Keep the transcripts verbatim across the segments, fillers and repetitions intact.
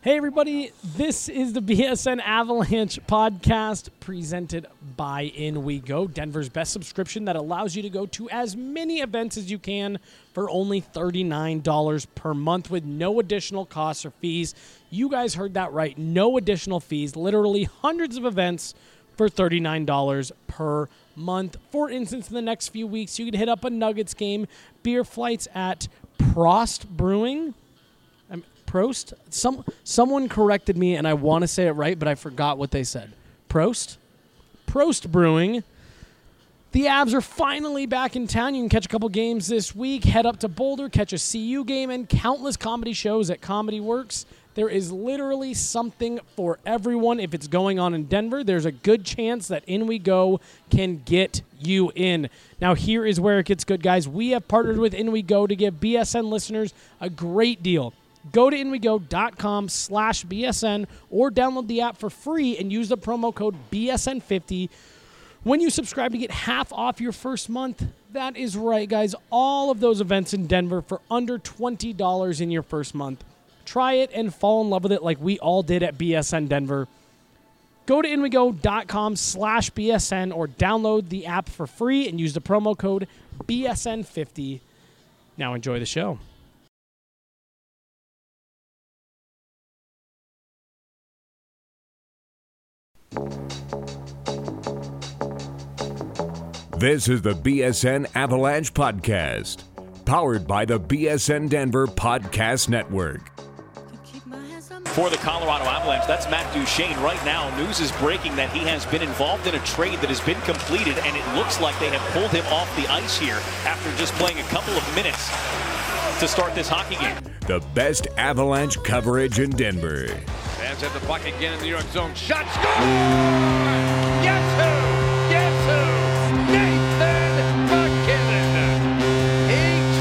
Hey, everybody. This is the B S N Avalanche podcast presented by In We Go, Denver's best subscription that allows you to go to as many events as you can for only thirty-nine dollars per month with no additional costs or fees. You guys heard that right. No additional fees. Literally hundreds of events for thirty-nine dollars per month. For instance, in the next few weeks, you can hit up a Nuggets game, beer flights at Prost Brewing. Prost? Some someone corrected me, and I want to say it right, but I forgot what they said. Prost? Prost Brewing. The Avs are finally back in town. You can catch a couple games this week. Head up to Boulder, catch a C U game, and countless comedy shows at Comedy Works. There is literally something for everyone. If it's going on in Denver, there's a good chance that In We Go can get you in. Now, here is where it gets good, guys. We have partnered with In We Go to give B S N listeners a great deal. Go to inwego.com slash BSN or download the app for free and use the promo code B S N fifty when you subscribe to get half off your first month. That is right, guys. All of those events in Denver for under twenty dollars in your first month. Try it and fall in love with it like we all did at B S N Denver. Go to inwego.com slash BSN or download the app for free and use the promo code B S N fifty. Now enjoy the show. This is the B S N Avalanche Podcast, powered by the B S N Denver Podcast Network. For the Colorado Avalanche, that's Matt Duchene. Right now, news is breaking that he has been involved in a trade that has been completed, and it looks like they have pulled him off the ice here after just playing a couple of minutes to start this hockey game. The best Avalanche coverage in Denver. Fans have the puck again in the New York zone. Shot, score! Guess who? Guess who? Nathan MacKinnon. He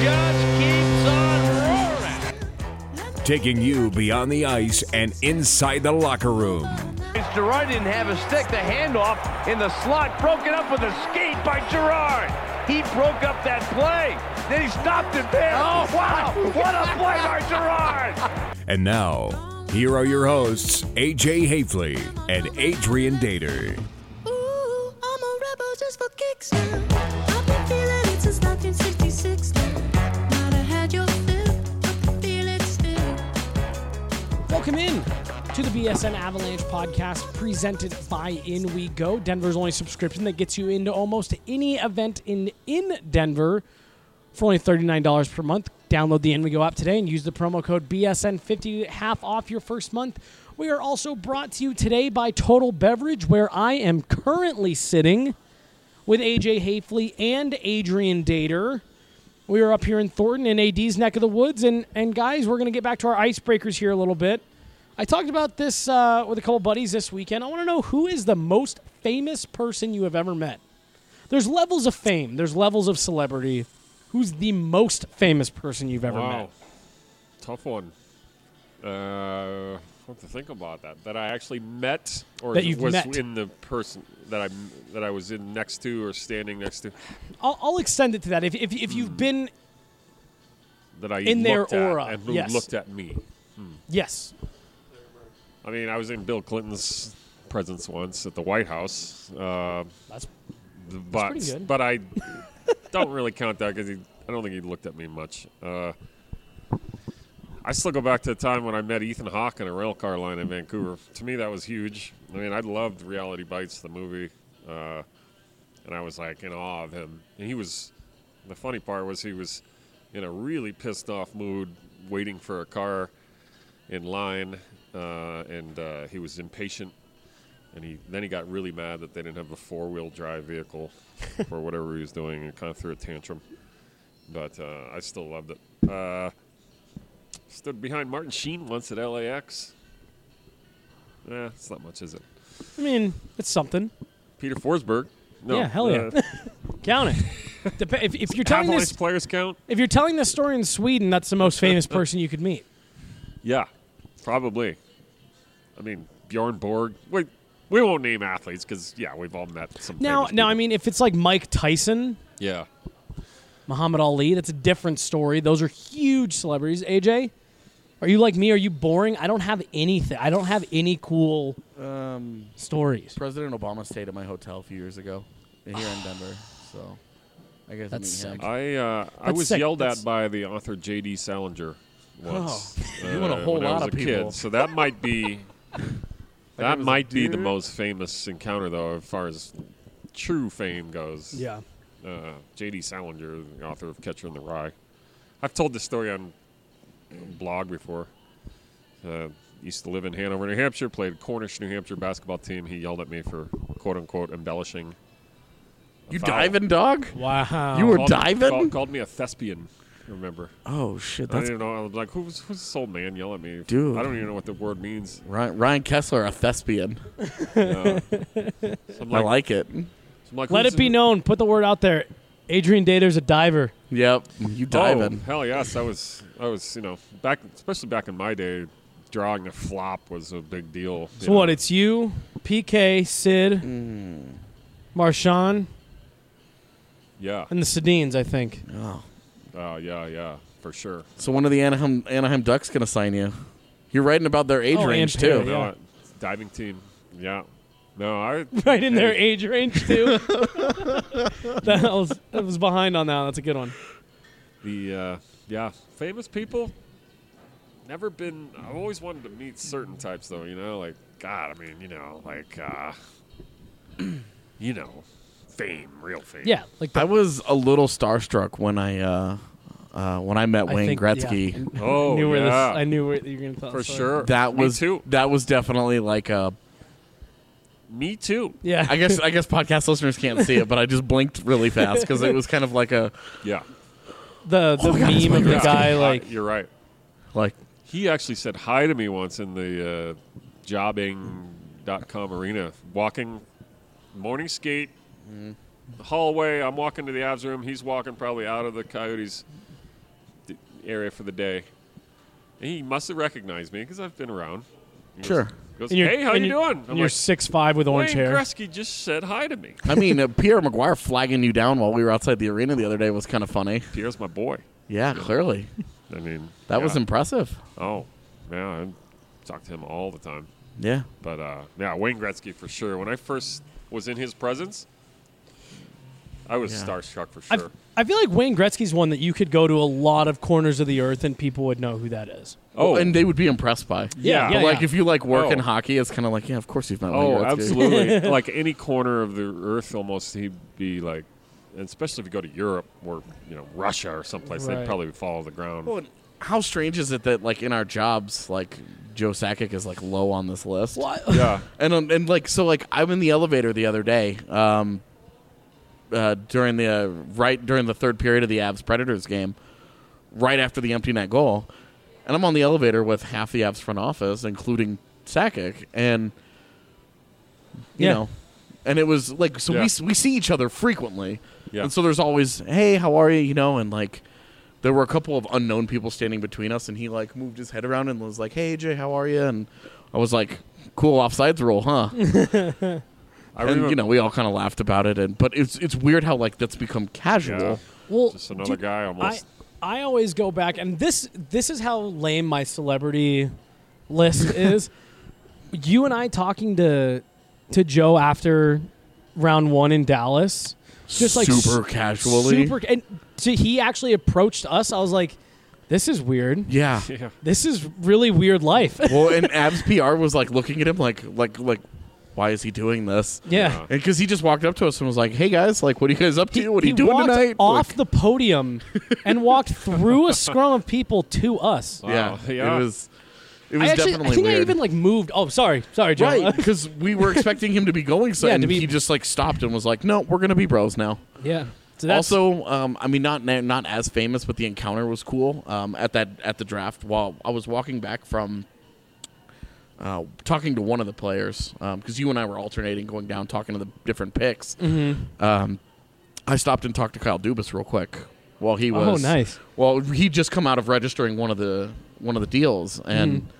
just keeps on roaring. Taking you beyond the ice and inside the locker room. Girard didn't have a stick. The handoff in the slot, broken up with a skate by Girard. He broke up that play. Then he stopped it there. Oh, wow. What a play by Girard. And now, here are your hosts, A J Hafley and Adrian Dater. Ooh, I'm a rebel just for kicks now. I've been feeling it since nineteen sixty-six now. Might have had your fill, but I feel it still. Welcome in to the B S N Avalanche podcast presented by In We Go, Denver's only subscription that gets you into almost any event in, in Denver for only thirty-nine dollars per month. Download the In We Go app today and use the promo code B S N fifty to get half off your first month. We are also brought to you today by Total Beverage, where I am currently sitting with A J Hafley and Adrian Dater. We are up here in Thornton in A D's neck of the woods, and, and guys, we're going to get back to our icebreakers here a little bit. I talked about this uh, with a couple buddies this weekend. I want to know, who is the most famous person you have ever met? There's levels of fame. There's levels of celebrity. Who's the most famous person you've ever wow. met? Tough one. Uh, what to think about that? That I actually met, or That you've was met. in the person that I that I was in next to or standing next to. I'll, I'll extend it to that. If if, if you've been That I In their looked at aura, and who yes. looked at me. yes, I mean, I was in Bill Clinton's presence once at the White House. Uh, that's but pretty good. but I don't really count that because I don't think he looked at me much. Uh, I still go back to the time when I met Ethan Hawke on a rail car line in Vancouver. To me, that was huge. I mean, I loved Reality Bites, the movie, uh, and I was like in awe of him. And he was, the funny part was he was in a really pissed off mood, waiting for a car in line, uh, and uh, he was impatient. And he then he got really mad that they didn't have a four-wheel drive vehicle for whatever he was doing, and kind of threw a tantrum. But uh, I still loved it. Uh, stood behind Martin Sheen once at L A X. Eh, it's not much, is it? I mean, it's something. Peter Forsberg. No, Yeah, hell yeah. Uh, Count it. Dep- if, if you're telling Avalanche this, players count? if you're telling this story in Sweden, that's the most famous person you could meet. Yeah, probably. I mean, Bjorn Borg. Wait, we won't name athletes because, yeah, we've all met some Now, famous now, people. I mean, if it's like Mike Tyson, Yeah. Muhammad Ali, that's a different story. Those are huge celebrities. A J? Are you like me? Are you boring? I don't have anything. I don't have any cool Um, stories. President Obama stayed at my hotel a few years ago here in Denver, so I guess That's meet him. sick. I uh, I That's was sick. yelled That's- at by the author J D Salinger once. Oh, you and a whole when I lot was of a people. Kid. So that might be that it was a might be the dude? most famous encounter, though, as far as true fame goes. Yeah. Uh, J D Salinger, the author of Catcher in the Rye. I've told this story on a blog before. Uh, used to live in Hanover, New Hampshire, played Cornish, New Hampshire basketball team. He yelled at me for quote-unquote embellishing. a You foul. diving, dog? Wow. You were Called- diving? Called, called me a thespian, remember. Oh, shit. I That's didn't know. I was like, who's, who's this old man yelling at me? Dude. I don't even know what the word means. Ryan, Ryan Kessler, a thespian. Uh, so I'm I like, like it. so I'm like, Let who's it be this- known. Put the word out there. Adrian Dater's a diver. Yep. You diving. Oh, hell yes. I was, I was, you know, back, especially back in my day, drawing a flop was a big deal. So what? It's you, P K, Sid, Marshawn, Yeah. and the Sedines, I think. Oh. Uh, yeah, yeah, for sure. So when are the Anaheim, Anaheim Ducks going to sign you? You're writing about their age Oh, range, and too. Perry, No, yeah. uh, diving team. Yeah. No, I. Right in their hey, age range, too. that, was, that was behind on that. That's a good one. The uh, yeah, famous people. Never been. I've always wanted to meet certain types, though. You know, like God. I mean, you know, like uh, you know, fame, real fame. Yeah. like the, I was a little starstruck when I uh, uh, when I met I Wayne think- Gretzky. yeah. Oh, I knew where yeah. this. I knew where you were going to tell For the story. sure. That Me was too. that was definitely like a. Me too. Yeah. I guess I guess podcast listeners can't see it, but I just blinked really fast because it was kind of like a Yeah. the the Oh my God, it's meme Wayne of the Gretzky. guy, Uh, like, you're right. like He actually said hi to me once in the uh, jobbing dot com arena. Walking, morning skate, hallway. I'm walking to the Avs room. He's walking probably out of the Coyotes d- area for the day. And he must have recognized me because I've been around. He goes- Sure. Goes, and you're- hey, how and you you're- doing? And I'm you're like, six five with orange Wayne hair. Gretzky just said hi to me. I mean, uh, Pierre McGuire flagging you down while we were outside the arena the other day was kind of funny. Pierre's my boy. Yeah, clearly I mean, that was yeah. impressive. Oh, yeah, I talk to him all the time. Yeah, But uh, yeah, Wayne Gretzky for sure. When I first was in his presence, I was Yeah. starstruck for I sure. I feel like Wayne Gretzky's one that you could go to a lot of corners of the earth and people would know who that is. Oh, and they would be impressed by. Yeah, Yeah. yeah, But like yeah. if you like work in Oh. hockey, it's kind of like yeah, of course you've met Wayne oh, Gretzky. absolutely. Like any corner of the earth, almost he'd be like, and especially if you go to Europe or you know Russia or someplace, Right. they'd probably follow the ground. Well, and how strange is it that like in our jobs, like Joe Sakic is like low on this list? What? Yeah, And um, and like so like I'm in the elevator the other day, um, uh, during the uh, right during the third period of the Avs Predators game, right after the empty net goal, and I'm on the elevator with half the Avs front office, including Sakic, and you Yeah. know, and it was like so Yeah. we s- we see each other frequently, Yeah. and so there's always hey how are you you know and like. There were a couple of unknown people standing between us, and he like moved his head around and was like, "Hey, Jay, how are you?" And I was like, "Cool offsides rule, huh?" I and remember. you know we all kind of laughed about it, and but it's it's weird how like that's become casual. Yeah. Well, Just another dude, guy I, almost. I always go back, and this this is how lame my celebrity list is. You and I talking to to Joe after round one in Dallas, just like super s- casually. super, and so he actually approached us. I was like, "This is weird. Yeah. yeah. This is really weird life." Well, and Abs P R was like looking at him like like like, why is he doing this? yeah. And because he just walked up to us and was like, "Hey guys, like, what are you guys up to? He, what are he you doing walked tonight?" off Like, the podium and walked through a scrum of people to us. yeah, Wow. Yeah. it was it was I actually, definitely I think weird. I even like moved. Oh, sorry, sorry, Joe. right, because we were expecting him to be going, so Yeah, and to be- he just like stopped and was like, "No, we're gonna be bros now." yeah. So that's, Also, um, I mean, not na- not as famous, but the encounter was cool. Um, at that at the draft, while I was walking back from uh, talking to one of the players, because you and I were alternating, going down, talking to the different picks. Mm-hmm. Um, I stopped and talked to Kyle Dubas real quick while he Oh, was. nice. Well, he'd just come out of registering one of the one of the deals and. Mm-hmm.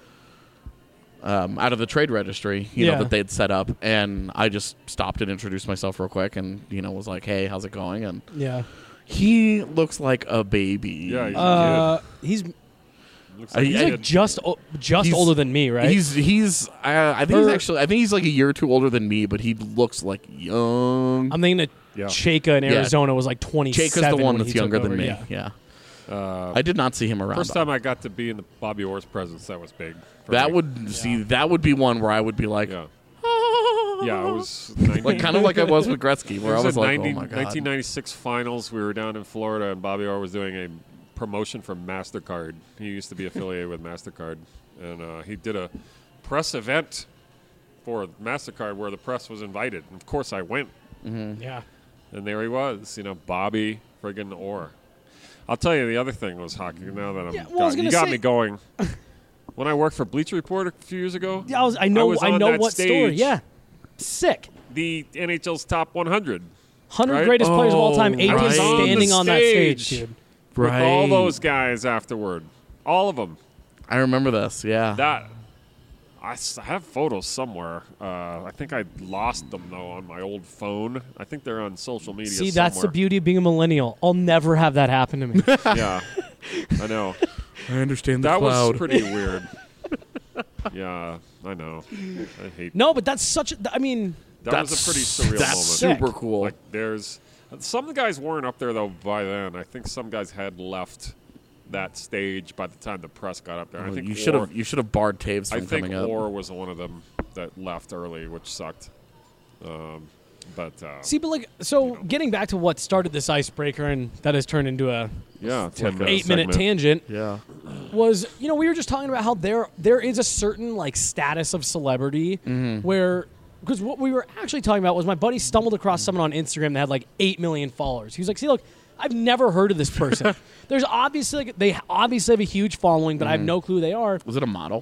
Um, out of the trade registry, you Yeah. know, that they'd set up, and I just stopped and introduced myself real quick, and you know, was like, "Hey, how's it going?" And Yeah. he looks like a baby. Yeah, he's Uh, he's Looks Uh, like he- He's he like had- just o- just He's- older than me, right? He's he's. Uh, I think he's Or- actually. I think he's like a year or two older than me, but he looks like young. I'm thinking that Yeah. Chaka in Yeah. Arizona was like twenty-seven. Jake is the one when that's he took younger than over, me. Yeah. Yeah. uh, I did not see him around. first time I got to be in the Bobby Orr's presence, that was big. for that me. would see. That would be one where I would be like, Yeah. Yeah, it was ninety, like kind of like I was with Gretzky, it where was I was the like, ninety, oh my god. nineteen ninety-six finals. We were down in Florida, and Bobby Orr was doing a promotion for MasterCard. He used to be affiliated with MasterCard, and uh, he did a press event for MasterCard where the press was invited. And of course, I went, Yeah. and there he was. You know, Bobby friggin' Orr. I'll tell you the other thing was hockey. Now that I'm, Yeah, well, I was got, you gonna got say- me going. When I worked for Bleacher Report a few years ago, Yeah, I, was, I know. was I, on know that what story. stage. Yeah. Sick. the N H L's top one hundred. one hundred Right? greatest players of all time. Oh, Eight right. is standing On on the that stage, stage. dude. With all Right. those guys afterward. All of them. I remember this. Yeah. That I s- have photos somewhere. Uh, I think I lost them though on my old phone. I think they're on social media. See, that's the somewhere. beauty of being a millennial. I'll never have that happen to me. Yeah, I know. I understand the That cloud. was pretty weird. Yeah, I know. I hate. No, but that's such. A, I mean, that that's was a pretty surreal That's moment. super cool. Like there's some of the guys weren't up there though by then. I think some guys had left that stage by the time the press got up there. I Well, think you should Orr- have you should have barred Taves I from think coming up. Orr was one of them that left early, which sucked. Um, but uh, see, but like, so getting back to what started this icebreaker and that has turned into a yeah, ten minute eight-minute segment. tangent Yeah. was, you know, we were just talking about how there there is a certain like status of celebrity where. Because what we were actually talking about was my buddy stumbled across someone on Instagram that had like eight million followers. He was like, "See, look, I've never heard of this person. There's obviously like, they obviously have a huge following, but I have no clue who they are." Was it a model?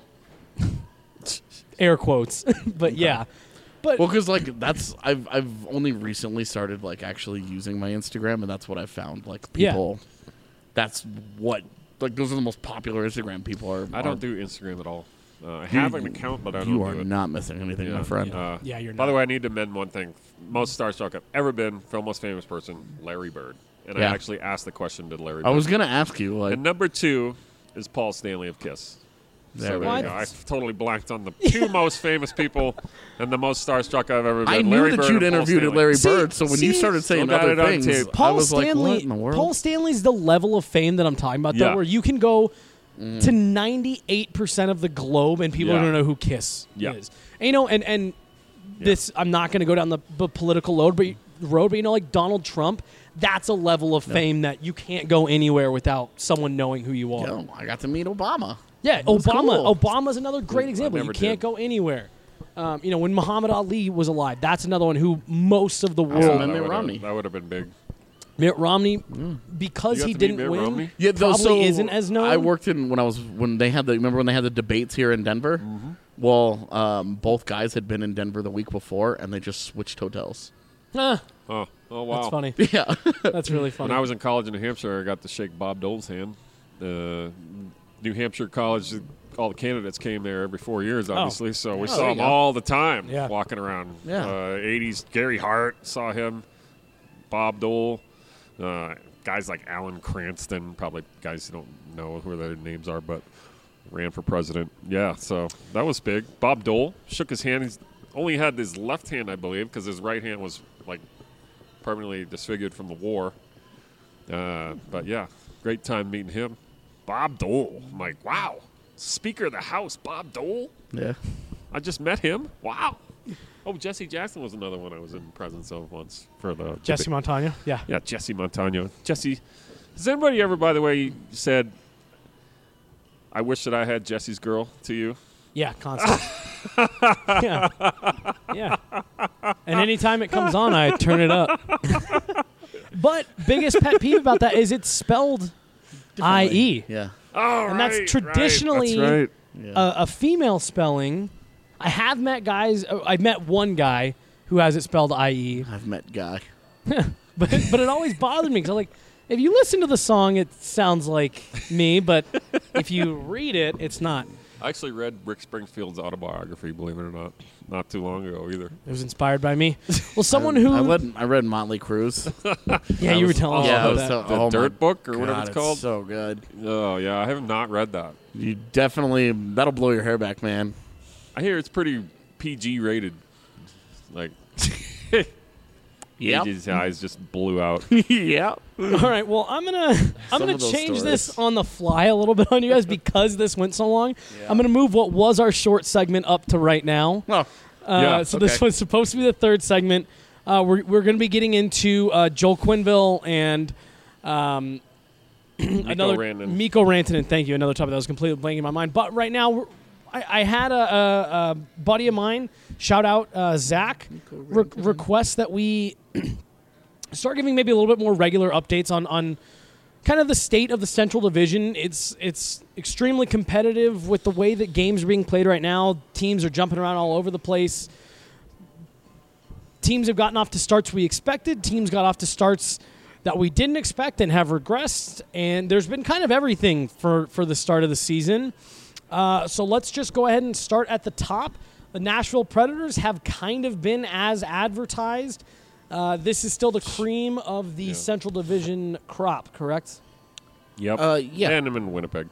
Air quotes, but yeah. But Well, because like that's I've I've only recently started like actually using my Instagram, and that's what I found. Like Yeah. people, that's what like those are the most popular Instagram people are. I are- don't do Instagram at all. Uh, I have an account, but I don't You do are it. not missing anything, my friend. Uh, Yeah, you're By the not. way, I need to amend one thing. Most starstruck I've ever been, for most famous person, Larry Bird. And Yeah. I actually asked the question to Larry I Bird. was gonna ask you like And number two is Paul Stanley of Kiss. There so we there you go. go. I totally blanked on the two most famous people and the most starstruck I've ever been. I knew Larry that Bird you'd and Paul interviewed Stanley. Larry See- Bird, so when you see- started saying Still got other it on things, tape. I Paul was like, Stanley, what in the world? Paul Stanley's the level of fame that I'm talking about, though, Yeah. where you can go to ninety-eight percent of the globe and people Yeah. don't know who Kiss Yeah. is. And, you know, and and this I'm not going to go down the, the political road, but road, but you know, like Donald Trump, that's a level of fame that you can't go anywhere without someone knowing who you are. Yo, I got to meet Obama. Yeah, was Obama. cool. Obama's another great I example. You never can't did. go anywhere. Um, you know, when Muhammad Ali was alive, that's another one who most of the Yeah, world. Mitt that would've- Romney. That would have been big. Mitt Romney, because You got he to meet didn't Mitt win, Romney? Yeah, though, probably so isn't as known. I worked in when I was when they had the remember when they had the debates here in Denver. Mm-hmm. Well, um, both guys had been in Denver the week before, and they just switched hotels. Ah, Oh, oh wow. that's funny. Yeah, That's really funny. When I was in college in New Hampshire, I got to shake Bob Dole's hand. Uh, New Hampshire College, all the candidates came there every four years, obviously, so we Oh, saw there you him go. all the time Yeah. walking around. Yeah. Uh, eighties, Gary Hart, saw him. Bob Dole. Uh, guys like Alan Cranston, probably guys who don't know who their names are, but ran for president. Yeah, so that was big. Bob Dole shook his hand. He's only had his left hand, I believe, because his right hand was like permanently disfigured from the war. Uh, but yeah, great time meeting him. Bob Dole. I'm like, wow. Speaker of the House, Bob Dole? yeah. I just met him? Wow. Oh, Jesse Jackson was another one I was in presence of once for the Jesse Montano. Yeah. Yeah, Jesse Montano. Jesse, has anybody ever, by the way, said, I wish that I had Jesse's girl to you? Yeah, constant. yeah. Yeah. And anytime it comes on, I turn it up. But biggest pet peeve about that is it's spelled I E. Yeah. Oh, And that's right, traditionally right. That's right. a, a female spelling. I have met guys, uh, I've met one guy who has it spelled I E. I've met Guy. but but it always bothered me because I'm like, if you listen to the song, it sounds like me, but if you read it, it's not. I actually read Rick Springfield's autobiography, believe it or not, not too long ago either. It was inspired by me. Well, someone I, who I read I read Motley Crue's. yeah, you were telling us yeah, about it was that. so, The oh Dirt my Book or God, whatever it's called. So good. Oh yeah, I have not read that. You definitely that'll blow your hair back, man. I hear it's pretty P G rated. Like, Yep. his eyes just blew out. yeah. All right, well, I'm gonna I'm Some gonna of those change stories. this on the fly a little bit on you guys because this went so long. I'm gonna move what was our short segment up to right now. Oh, Uh, Yeah, so this okay. was supposed to be the third segment. Uh, we're we're going to be getting into uh, Joel Quenneville and um, another Rantanen. Mikko Rantanen. Thank you. Another topic that was completely blanking in my mind. But right now, we're, I, I had a, a, a buddy of mine, shout out uh, Zach, re- request that we start giving maybe a little bit more regular updates on on kind of the state of the Central Division. It's it's extremely competitive with the way that games are being played right now. Teams are jumping around all over the place. Teams have gotten off to starts we expected. Teams got off to starts that we didn't expect and have regressed. And there's been kind of everything for, for the start of the season. Uh, so let's just go ahead and start at the top. The Nashville Predators have kind of been as advertised. Uh, this is still the cream of the Yeah. Central Division crop, correct? Yep. Uh, yeah. And I'm in Winnipeg.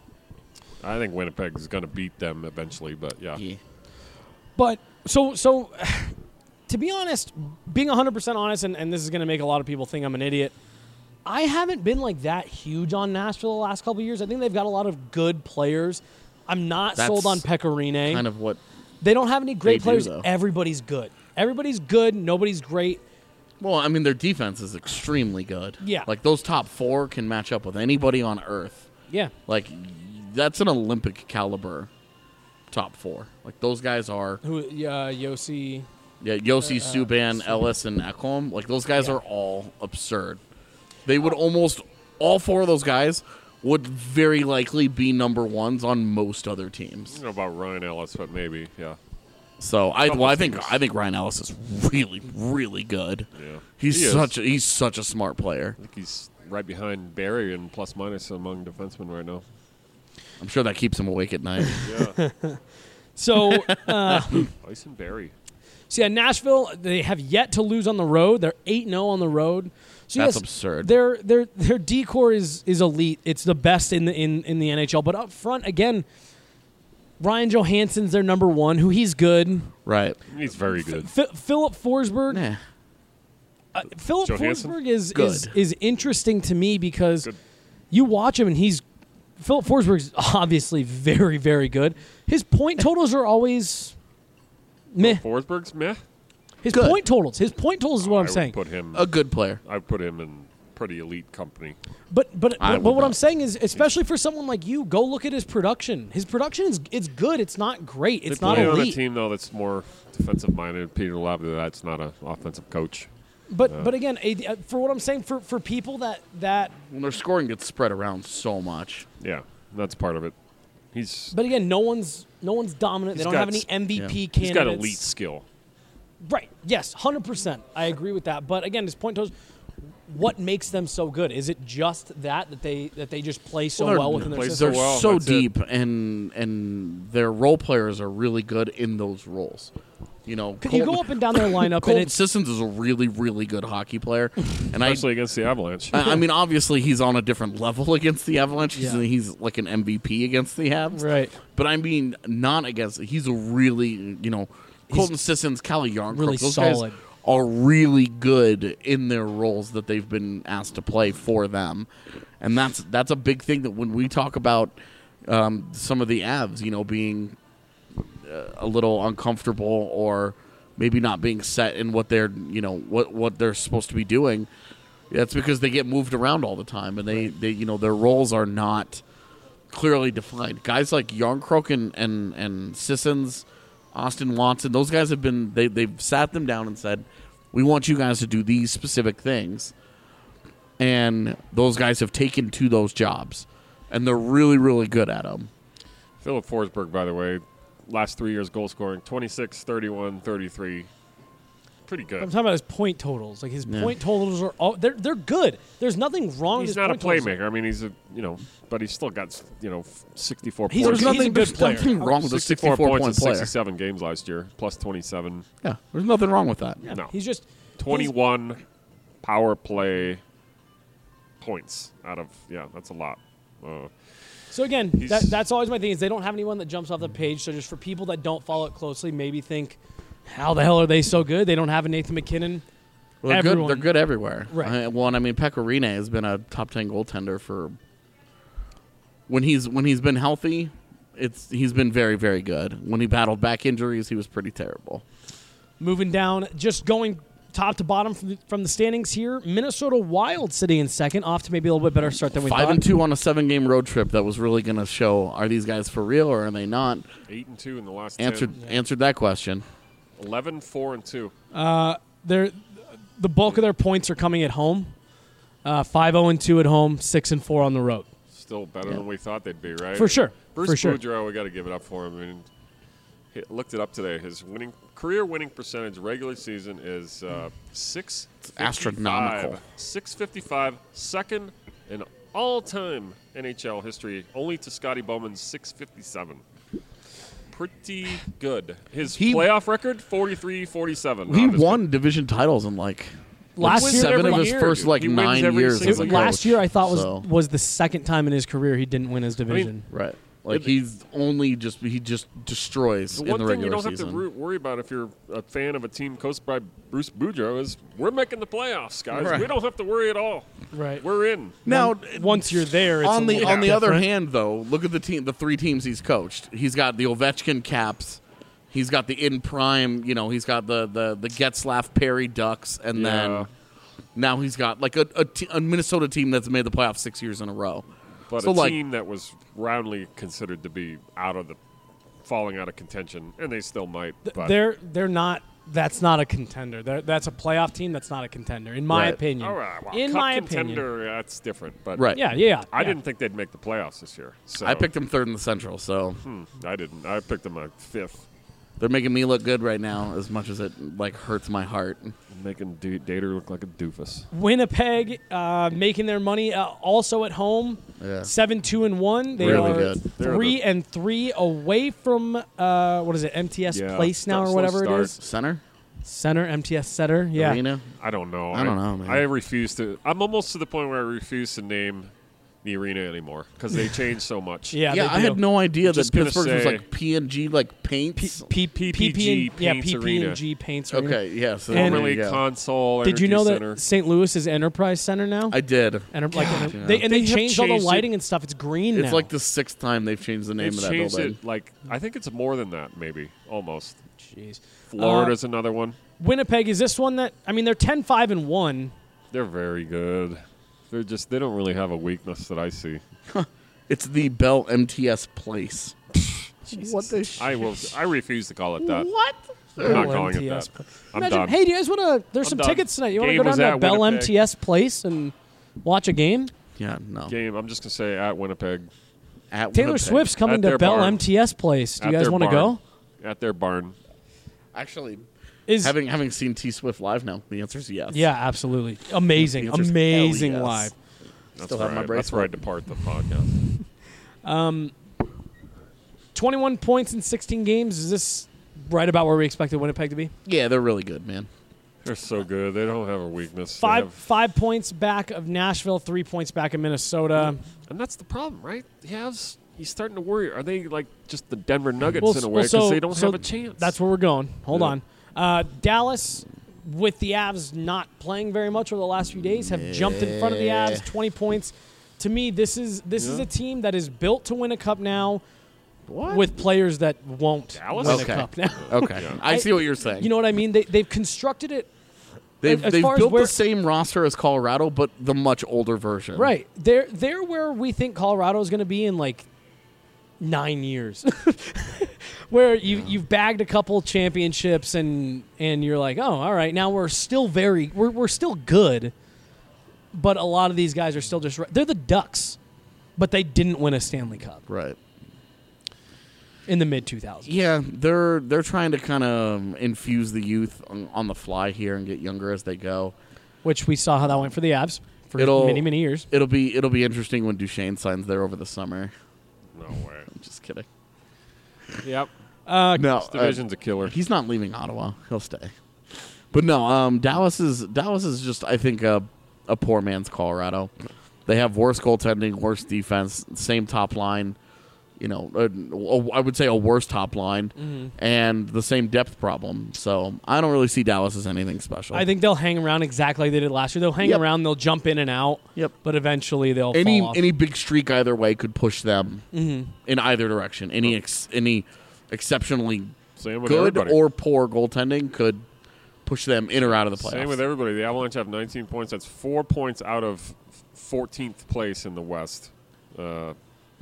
I think Winnipeg is going to beat them eventually, but yeah. yeah. But so so to be honest, being one hundred percent honest, and, and this is going to make a lot of people think I'm an idiot, I haven't been like that huge on Nashville the last couple of years. I think they've got a lot of good players. I'm not That's sold on Pecorine. Kind of what They don't have any great They do, players. though. Everybody's good. Everybody's good. Nobody's great. Well, I mean, their defense is extremely good. Yeah. Like, those top four can match up with anybody on Earth. Yeah. Like, that's an Olympic caliber top four. Like, those guys are, Who? Uh, Yossi. yeah, Yossi, Uh, Subban, Ellis, and Ekholm. Like, those guys Yeah. are all absurd. They would almost, all four of those guys would very likely be number ones on most other I teams. don't know about Ryan Ellis, but maybe, yeah. So, I, Couple well, I think teams. I think Ryan Ellis is really, really good. Yeah. He's He is. such a, he's such a smart player. I think he's right behind Barry in plus minus among defensemen right now. I'm sure that keeps him awake at night. Yeah. So, uh, Ice and Barry. so yeah, Nashville. They have yet to lose on the road. They're eight and zero on the road. So That's yes, absurd. Their their their decor is is elite. It's the best in the in, in the N H L. But up front again, Ryan Johansson's their number one. Who he's good. Right. He's very good. F- Philip Forsberg. Nah. Uh, Philip Johansson? Forsberg is, Good. is is interesting to me because Good. you watch him and he's Philip Forsberg's obviously very very good. His point totals are always meh. Forsberg's meh. His Good. point totals. His point totals is what I I'm would saying. Put him. A good player. I would put him in pretty elite company. But but I but, but would what I'm not. saying is, especially for someone like you, go look at his production. His production is it's good. It's not great. It's they not play on a elite. team though that's more defensive minded. Peter Laviolette, that's not an offensive coach. But but again, a- uh, for what I'm saying, for, for people that that When their scoring gets spread around so much. Yeah, that's part of it. He's but again, no one's no one's dominant. He's they don't got have any s- M V P yeah. candidates. he's got elite skill. Right. Yes. Hundred percent. I agree with that. But again, his point totals. What makes them so good? Is it just that that they that they just play so Well, they're- well within their play system? They're well, so that's it. deep, and and their role players are really good in those roles. You know, Can you go up and down their lineup and Colton it's Sissons is a really, really good hockey player, and I, Especially against the Avalanche. I I mean, obviously he's on a different level against the Avalanche. He's, Yeah. he's like an M V P against the Avs, right? But I mean, not against. He's a really, you know, Colton Sissons, Calle Yarncrook, really those solid. guys are really good in their roles that they've been asked to play for them, and that's that's a big thing that when we talk about um, some of the Avs, you know, being uh, a little uncomfortable or maybe not being set in what they're, you know, what what they're supposed to be doing. That's because they get moved around all the time, and they, they you know, their roles are not clearly defined. Guys like Yarncrook and and, and Sissons, Austin Watson, those guys have been they they've sat them down and said, we want you guys to do these specific things, and those guys have taken to those jobs, and they're really really good at them. Philip Forsberg, by the way, last three years goal scoring twenty-six, thirty-one, thirty-three. pretty good. I'm talking about his point totals. Like his Yeah. point totals are all they're they're good. There's nothing wrong with He's his not a point totals. playmaker. I mean, he's a you know, but he's still got you know sixty-four He's- points. he's a good there's player. nothing wrong with a sixty-four sixty-four points point in player. sixty-seven games last year, plus twenty-seven. Yeah, there's nothing wrong with that. Yeah, No. he's just twenty-one power play points out of yeah, that's a lot. Uh, So again, He's- that, that's always my thing is they don't have anyone that jumps off the page. So just for people that don't follow it closely, maybe think, how the hell are they so good? They don't have a Nathan McKinnon. Well, they're Everyone- good. They're good everywhere. Right. I, well, and I mean, Pecorine has been a top ten goaltender for when he's when he's been healthy. It's he's been very very good. When he battled back injuries, he was pretty terrible. Moving down, just going top to bottom from the, from the standings here. Minnesota Wild sitting in second, off to maybe a little bit better start than we Five thought. and two on a seven game road trip that was really going to show are these guys for real or are they not? eight and two in the last Answered ten. answered that question. eleven, four and two. They're, the bulk of their points are coming at home. Uh, five oh and two at home, six and four on the road. Still better than we thought they'd be, right? For sure. Bruce For sure. Boudreau, we got to give it up for him. I mean, he looked it up today. His winning career winning percentage regular season is uh, six. astronomical. Six fifty-five, second in all-time N H L history, only to Scotty Bowman's six fifty-seven. Pretty good. His He- playoff record, forty-three forty-seven. He Not as won division titles in like Last like year- seven every of his year, first dude. like He wins nine every years. single As a year. coach. Last year, I thought was So- was the second time in his career he didn't win his division. right. Like he's only just he just destroys The in one the thing you regular don't have season. to ru- worry about if you're a fan of a team coached by Bruce Boudreau is we're making the playoffs, guys. Right. We don't have to worry at all. Right. We're in. now, Once you're there, it's on a the little on the other different. hand, though, look at the team, the three teams he's coached. He's got the Ovechkin Caps. He's got the in prime. You know, he's got the the the Getzlaff Perry Ducks, and Yeah. then now he's got like a, a, te- a Minnesota team that's made the playoffs six years in a row. But So, a like- team that was roundly considered to be out of the falling out of contention, and they still might. But They're they're not. That's not a contender. They're, that's a playoff team. That's not a contender, in my Right. opinion. all right, well, in cup my contender, opinion. that's different. But Right. Yeah, yeah. yeah. I yeah. didn't think they'd make the playoffs this year. So I picked him third in the Central, so Hmm, I didn't. I picked them at fifth, they're making me look good right now. As much as it like hurts my heart. making D- Dater look like a doofus. Winnipeg uh, making their money uh, also at home. Yeah. Seven two and one. They Really are good. They're three the- and three away from uh, what is it? M T S Yeah, Place now slow or whatever start. it is. Center, Center M T S Center. Yeah. Arena. I don't know. I don't know, man. I refuse to. I'm almost to the point where I refuse to name the arena anymore because they changed so much. Yeah. Yeah, they I do. had no idea that Just gonna Pittsburgh was say- like P and G like paints. P- P- P- PPG P- yeah, Paints P P Arena. and G Paints Arena. Okay, yeah. So And- there Formerly you go. Console. Did you Energy know Center. that Saint Louis is Enterprise Center now? I did. Enter- like, enter- yeah. they, and they, They have changed all the changed it. lighting and stuff. It's green now. It's like the sixth time they've changed the name They've of that changed building. it like I think it's more than that. Maybe almost. Jeez. Florida's Uh, another one. Winnipeg is this one that I mean they're ten five and one. They're very good. They're just they don't really have a weakness that I see. It's the Bell M T S Place. What the sh- I will. I refuse to call it that. What? I'm not Bell calling M T it S that. Pla- I'm Imagine, done. hey, do you guys want to? There's I'm some done. tickets tonight. You want to Game go was down to at Bell Winnipeg. M T S Place and watch a game? Yeah, no. Game. I'm just gonna say at Winnipeg. At Taylor Winnipeg. Swift's coming At to their Bell barn. M T S Place. Do you At guys their want to barn. go? At their barn. Actually, Is having having seen T Swift live now, the answer is yes. yeah, absolutely amazing, The answer's amazing hell yes. live. That's Still where have my I, that's where I bracelet. depart the podcast. twenty-one points in sixteen games. Is this right about where we expected Winnipeg to be? Yeah, they're really good, man. They're so good. They don't have a weakness. They Five have- five points back of Nashville, three points back of Minnesota. and that's the problem, right? He has. He's starting to worry. Are they like just the Denver Nuggets Well, in a well, way because so- they don't so have a chance? That's where we're going. Hold Yeah. on. Uh, Dallas, with the Avs not playing very much over the last few days, have jumped in front of the Avs, twenty points. To me, this is this is Yeah. a team that is built to win a cup now, What? with players that won't Dallas? win Okay. a cup now. Okay, Yeah. I see what you're saying. You know what I mean? They they've constructed it they've as they've far as built where- the same roster as Colorado, but the much older version. right. They're they're where we think Colorado is going to be in like nine years, where you you've bagged a couple championships and and you're like, oh, all right, now we're still very we're we're still good, but a lot of these guys are still just they're the Ducks, but they didn't win a Stanley Cup. Right. in the mid two thousands. Yeah, they're they're trying to kind of infuse the youth on, on the fly here and get younger as they go. Which we saw how that went for the Avs for It'll- many, many years. It'll be it'll be interesting when Duchesne signs there over the summer. No way. I'm just kidding. Yep. Uh, No, This division's a killer. he's not leaving Ottawa. He'll stay. But no, um, Dallas is Dallas is just I think a a poor man's Colorado. They have worse goaltending, worse defense, same top line. You know, a, a, I would say a worse top line, Mm-hmm. and the same depth problem. So I don't really see Dallas as anything special. I think they'll hang around exactly like they did last year. They'll hang Yep. around, they'll jump in and out, Yep. but eventually they'll any fall off. any big streak either way could push them Mm-hmm. in either direction. Any ex, any exceptionally Same with good everybody. or poor goaltending could push them in or out of the playoffs. Same with everybody. The Avalanche have nineteen points. That's four points out of fourteenth place in the West. Uh,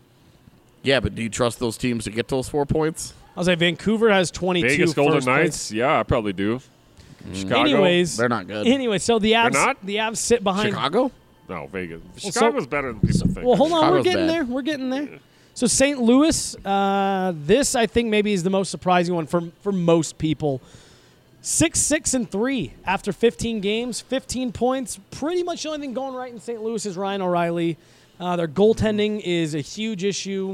Yeah, but do you trust those teams to get those four points? I'll say Vancouver has twenty-two. Vegas Golden first place. Knights. Yeah, I probably do. Chicago. Anyways, They're not good. Anyway, so the Avs, not? the Avs sit behind. Chicago? No, Vegas. so- Chicago's better than people think. Well, hold on, we're Chicago's getting bad. there. We're getting there. So Saint Louis, uh, this I think maybe is the most surprising one for for most people. Six, six, and three after fifteen games, fifteen points. Pretty much the only thing going right in Saint Louis is Ryan O'Reilly. Uh, their goaltending is a huge issue,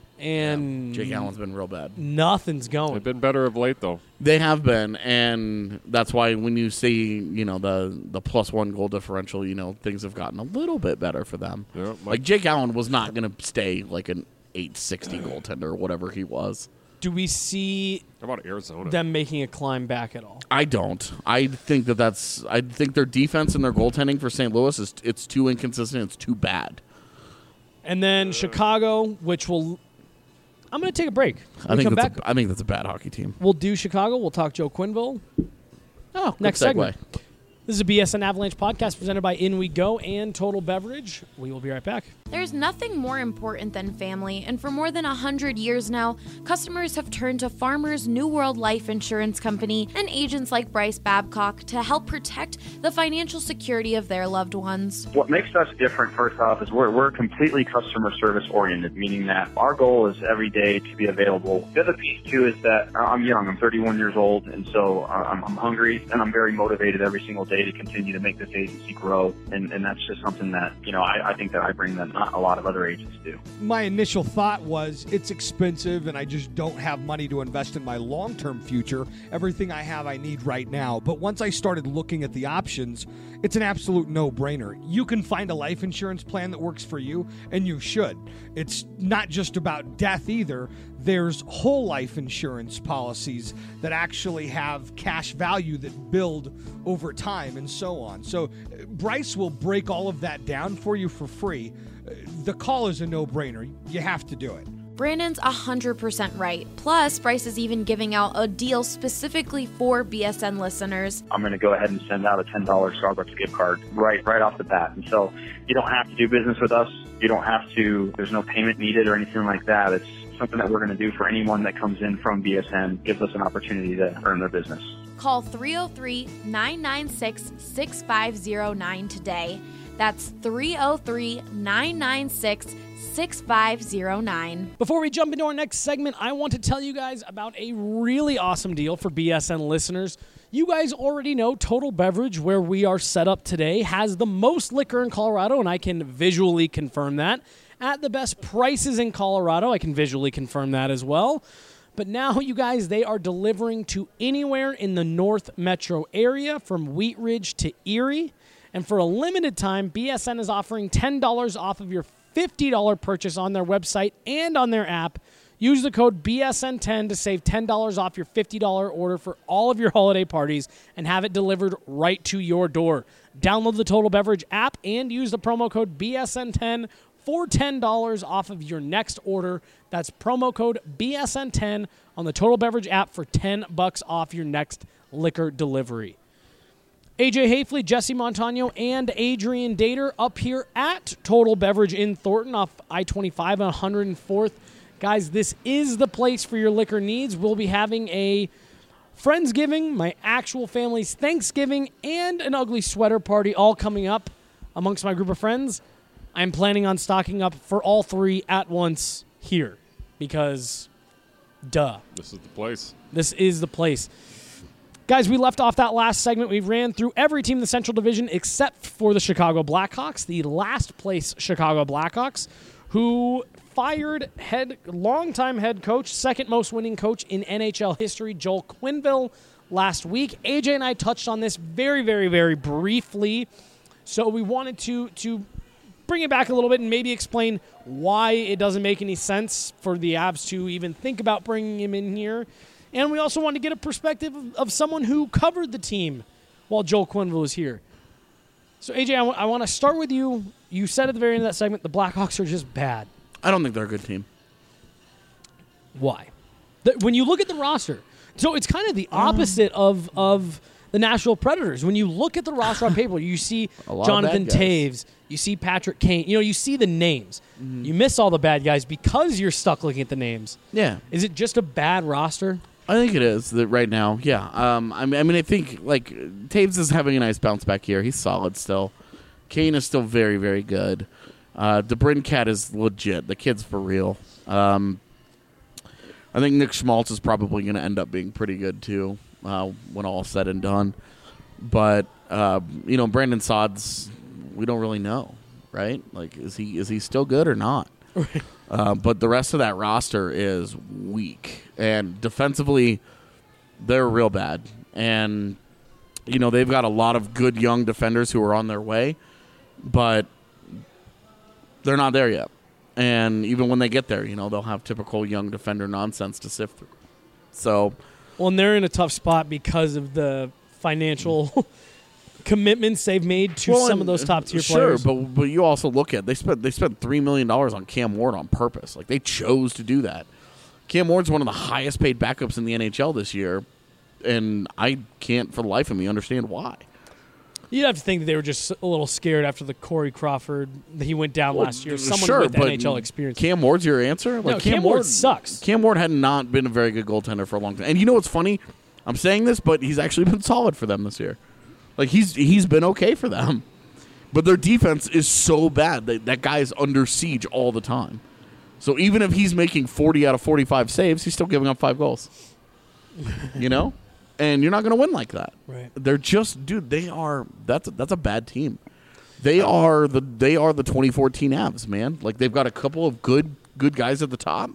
and Jake Allen's been real bad. nothing's going. They've been better of late, though. They have been, and that's why when you see, you know, the the plus one goal differential, you know, things have gotten a little bit better for them. Yeah, Mike- Like Jake Allen was not going to stay like an eight sixty goaltender or whatever he was. Do we see How about Arizona? them making a climb back at all? I don't. I think that that's. I think their defense and their goaltending for Saint Louis is it's too inconsistent. It's too bad. And then Chicago, which will. I'm going to take a break. When I we think come that's. back, A, I think that's a bad hockey team. we'll do Chicago. We'll talk Joe Quenneville. Oh, good Next segue. segment. This is a B S N Avalanche podcast presented by In We Go and Total Beverage. We will be right back. There's nothing more important than family, and for more than one hundred years now, customers have turned to Farmers New World Life Insurance Company and agents like Bryce Babcock to help protect the financial security of their loved ones. What makes us different, first off, is we're, we're completely customer service oriented, meaning that our goal is every day to be available. The other piece, too, is that I'm young. I'm thirty-one years old, and so I'm, I'm hungry, and I'm very motivated every single day to continue to make this agency grow, and, and that's just something that, you know, I, I think that I bring that not a lot of other agents do. My initial thought was it's expensive and I just don't have money to invest in my long-term future. Everything I have I need right now. But once I started looking at the options, it's an absolute no-brainer. You can find a life insurance plan that works for you, and you should. It's not just about death either. There's whole life insurance policies that actually have cash value that build over time and so on. So uh, Bryce will break all of that down for you for free. Uh, The call is a no-brainer. You have to do it. Brandon's one hundred percent right. Plus, Bryce is even giving out a deal specifically for B S N listeners. I'm going to go ahead and send out a ten dollars Starbucks gift card right right off the bat. And so you don't have to do business with us. You don't have to, there's no payment needed or anything like that. It's something that we're going to do for anyone that comes in from B S N, gives us an opportunity to earn their business. Call three oh three, nine nine six, six five oh nine today. That's three oh three, nine nine six, six five oh nine. Before we jump into our next segment, I want to tell you guys about a really awesome deal for B S N listeners. You guys already know Total Beverage, where we are set up today, has the most liquor in Colorado, and I can visually confirm that. At the best prices in Colorado, I can visually confirm that as well. But now, you guys, they are delivering to anywhere in the North Metro area, from Wheat Ridge to Erie. And for a limited time, B S N is offering ten dollars off of your fifty dollars purchase on their website and on their app. Use the code B S N ten to save ten dollars off your fifty dollars order for all of your holiday parties and have it delivered right to your door. Download the Total Beverage app and use the promo code B S N ten for ten dollars off of your next order. That's promo code B S N ten on the Total Beverage app for ten bucks off your next liquor delivery. A J Hafley, Jesse Montano, and Adrian Dater up here at Total Beverage in Thornton off I twenty-five on one hundred fourth. Guys, this is the place for your liquor needs. We'll be having a Friendsgiving, my actual family's Thanksgiving, and an ugly sweater party all coming up amongst my group of friends. I'm planning on stocking up for all three at once here because Duh. This is the place. This is the place. Guys, we left off that last segment. We ran through every team in the Central Division except for the Chicago Blackhawks, the last place Chicago Blackhawks, who fired head longtime head coach, second most winning coach in N H L history, Joel Quenneville, last week. A J and I touched on this very, very, very briefly. So we wanted to to bring it back a little bit and maybe explain why it doesn't make any sense for the Avs to even think about bringing him in here. And we also wanted to get a perspective of, of someone who covered the team while Joel Quenneville was here. So, A J, I, w- I want to start with you. You said at the very end of that segment the Blackhawks are just bad. I don't think they're a good team. Why? The, when you look at the roster, so it's kind of the opposite of of the Nashville Predators. When you look at the roster on paper, you see Jonathan Taves, you see Patrick Kane. You know, you see the names. Mm-hmm. You miss all the bad guys because you're stuck looking at the names. Yeah. Is it just a bad roster? I think it is that right now. Yeah. Um, I mean, I mean, I think like Taves is having a nice bounce back here. He's solid still. Kane is still very, very good. Uh, DeBrincat is legit. The kid's for real. Um, I think Nick Schmaltz is probably going to end up being pretty good too uh, when all said and done. But uh, you know, Brandon Saad's, we don't really know, right? Like, is he is he still good or not? Uh, but the rest of that roster is weak. And defensively, they're real bad. And, you know, they've got a lot of good young defenders who are on their way, but they're not there yet. And even when they get there, you know, they'll have typical young defender nonsense to sift through. So, well, and they're in a tough spot because of the financial commitments they've made to well, some of those top tier sure, players. Sure, but but you also look at they spent they spent three million dollars on Cam Ward on purpose. Like they chose to do that. Cam Ward's one of the highest paid backups in the N H L this year, and I can't for the life of me understand why. You'd have to think that they were just a little scared after the Corey Crawford that he went down well, last year. Someone sure, with but N H L experience. Cam Ward's your answer? Like no, Cam, Cam Ward, Ward sucks. Cam Ward had not been a very good goaltender for a long time. And you know what's funny? I'm saying this, but he's actually been solid for them this year. Like, he's he's been okay for them. But their defense is so bad that that guy is under siege all the time. So even if he's making forty out of forty-five saves, he's still giving up five goals. You know? And you're not going to win like that. Right. They're just, dude, they are, that's a, that's a bad team. They are the they are the twenty fourteen Avs, man. Like, they've got a couple of good good guys at the top.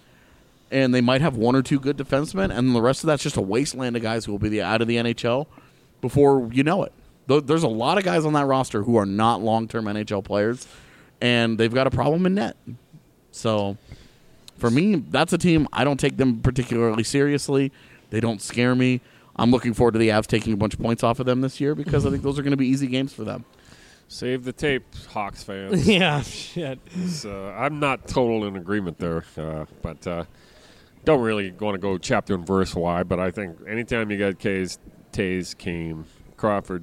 And they might have one or two good defensemen. And the rest of that's just a wasteland of guys who will be the, out of the N H L before you know it. There's a lot of guys on that roster who are not long-term N H L players, and they've got a problem in net. So, for me, that's a team. I don't take them particularly seriously. They don't scare me. I'm looking forward to the Avs taking a bunch of points off of them this year because I think those are going to be easy games for them. Save the tape, Hawks fans. Yeah, shit. Uh, I'm not total in agreement there, uh, but uh, don't really want to go chapter and verse why, but I think anytime you got K's, Tays, Kane, Crawford,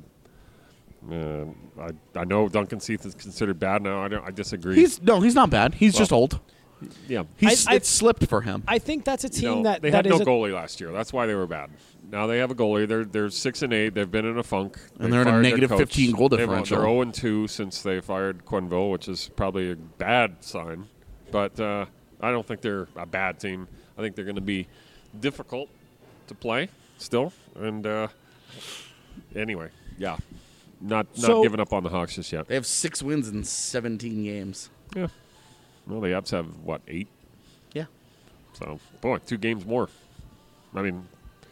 uh, I I know Duncan Seath is considered bad now. I don't. I disagree. He's no, he's not bad. He's well, just old. Yeah, he's I, I, it's slipped for him. I think that's a team you know, that they that had no is a, goalie last year. That's why they were bad. Now they have a goalie. They're they're six and eight. They've been in a funk, and they they're in a fired negative their coach. fifteen goal They've- differential. They're zero and two since they fired Quenneville, which is probably a bad sign. But uh, I don't think they're a bad team. I think they're going to be difficult to play still. And uh, anyway, yeah, not not So- giving up on the Hawks just yet. They have six wins in seventeen games. Yeah. Well, the Avs have what eight? Yeah. So boy, two games more. I mean,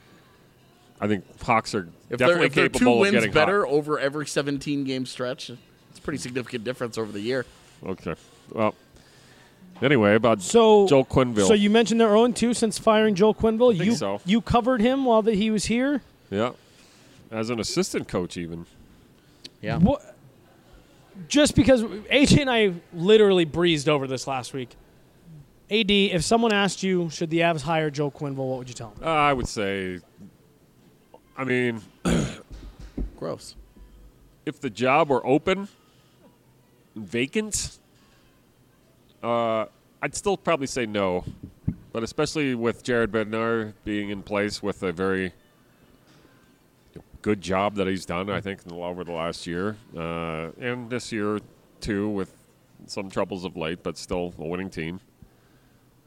I think Hawks are If definitely they're, if they're capable two of wins getting better hot. over every seventeen game stretch, it's a pretty significant difference over the year. Okay. Well, anyway, about so Joel Quenneville. So you mentioned they're zero and two since firing Joel Quenneville. think You so. you covered him while that he was here. Yeah. As an assistant coach, even. Yeah. What? Just because A J and I literally breezed over this last week. A D, if someone asked you, should the Avs hire Joel Quenneville, what would you tell them? Uh, I would say, I mean, Gross. if the job were open, vacant, uh, I'd still probably say no. But especially with Jared Bednar being in place with a very good job that he's done, I think, over the last year. Uh, and this year, too, with some troubles of late, but still a winning team.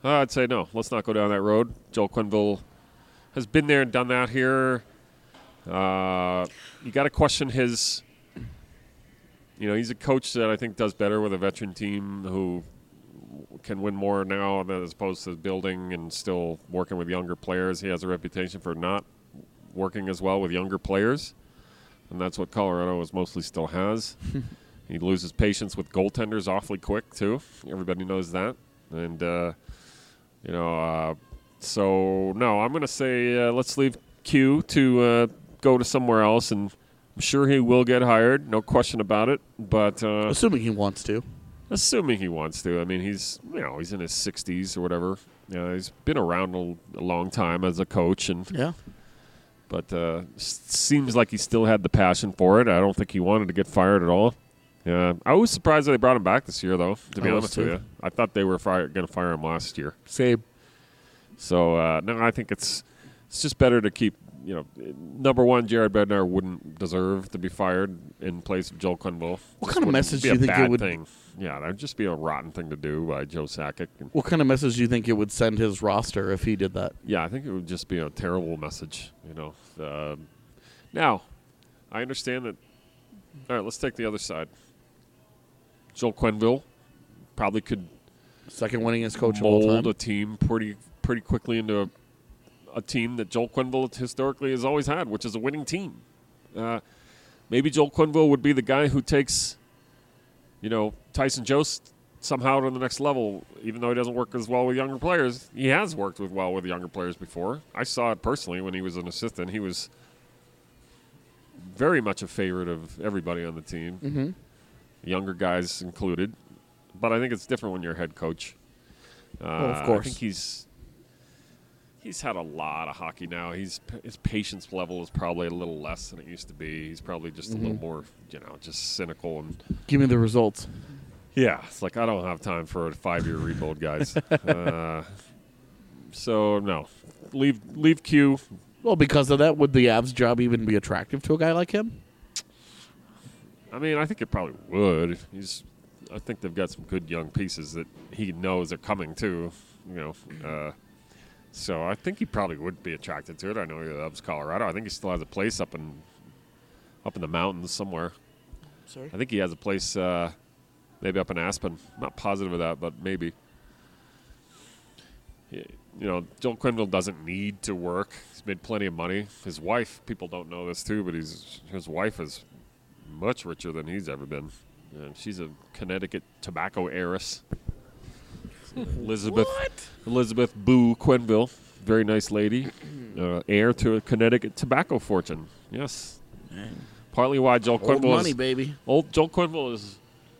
Uh, I'd say no. Let's not go down that road. Joel Quenneville has been there and done that here. Uh, you got to question his. You know, he's a coach that I think does better with a veteran team who can win more now as opposed to building and still working with younger players. He has a reputation for not working as well with younger players, and that's what Colorado is mostly still has. He loses patience with goaltenders awfully quick, too. Everybody knows that. And, uh, you know, uh, so, no, I'm going to say uh, let's leave Q to uh, go to somewhere else, and I'm sure he will get hired, no question about it. But uh, assuming he wants to. Assuming he wants to. I mean, he's, you know, he's in his sixties or whatever. You know, he's been around a, a long time as a coach. And yeah. But uh, s- seems like he still had the passion for it. I don't think he wanted to get fired at all. Yeah, I was surprised that they brought him back this year, though, to be I was honest with too. you. I thought they were fire- going to fire him last year. Same. So, uh, no, I think it's it's just better to keep, you know, number one, Jared Bednar wouldn't deserve to be fired in place of Joel Quenneville. What Just kind of wouldn't message be do you a think it bad would- thing. Yeah, that would just be a rotten thing to do by Joe Sakic. And What kind of message do you think it would send his roster if he did that? yeah, I think it would just be a terrible message, you know. Um, now, I understand that. All right, let's take the other side. Joel Quenneville probably could Second winningest coach of all mold time. a team pretty pretty quickly into a, a team that Joel Quenneville historically has always had, which is a winning team. Uh, maybe Joel Quenneville would be the guy who takes, you know, Tyson Jost somehow to the next level, even though he doesn't work as well with younger players. He has worked with well with younger players before. I saw it personally when he was an assistant. He was very much a favorite of everybody on the team, mm-hmm. younger guys included. But I think it's different when you're a head coach. Uh, Well, of course. I think he's he's had a lot of hockey now. He's his patience level is probably a little less than it used to be. He's probably just Mhm. a little more, you know, just cynical and Give me the results. yeah. It's like I don't have time for a five-year rebuild, guys. uh, so no, leave leave Q. Well, because of that, would the Avs job even be attractive to a guy like him? I mean, I think it probably would. He's. I think they've got some good young pieces that he knows are coming too. You know, uh, so I think he probably would be attracted to it. I know he loves Colorado. I think he still has a place up in up in the mountains somewhere. Sorry? I think he has a place uh, maybe up in Aspen. I'm not positive of that, but maybe. He- You know, Joel Quenneville doesn't need to work. He's made plenty of money. His wife, people don't know this too, but he's his wife is much richer than he's ever been. And she's a Connecticut tobacco heiress. Elizabeth Elizabeth Boo Quenneville, very nice lady, uh, heir to a Connecticut tobacco fortune. Yes, Man. partly why Joel Old Quenneville money, is, baby. Old Joel Quenneville is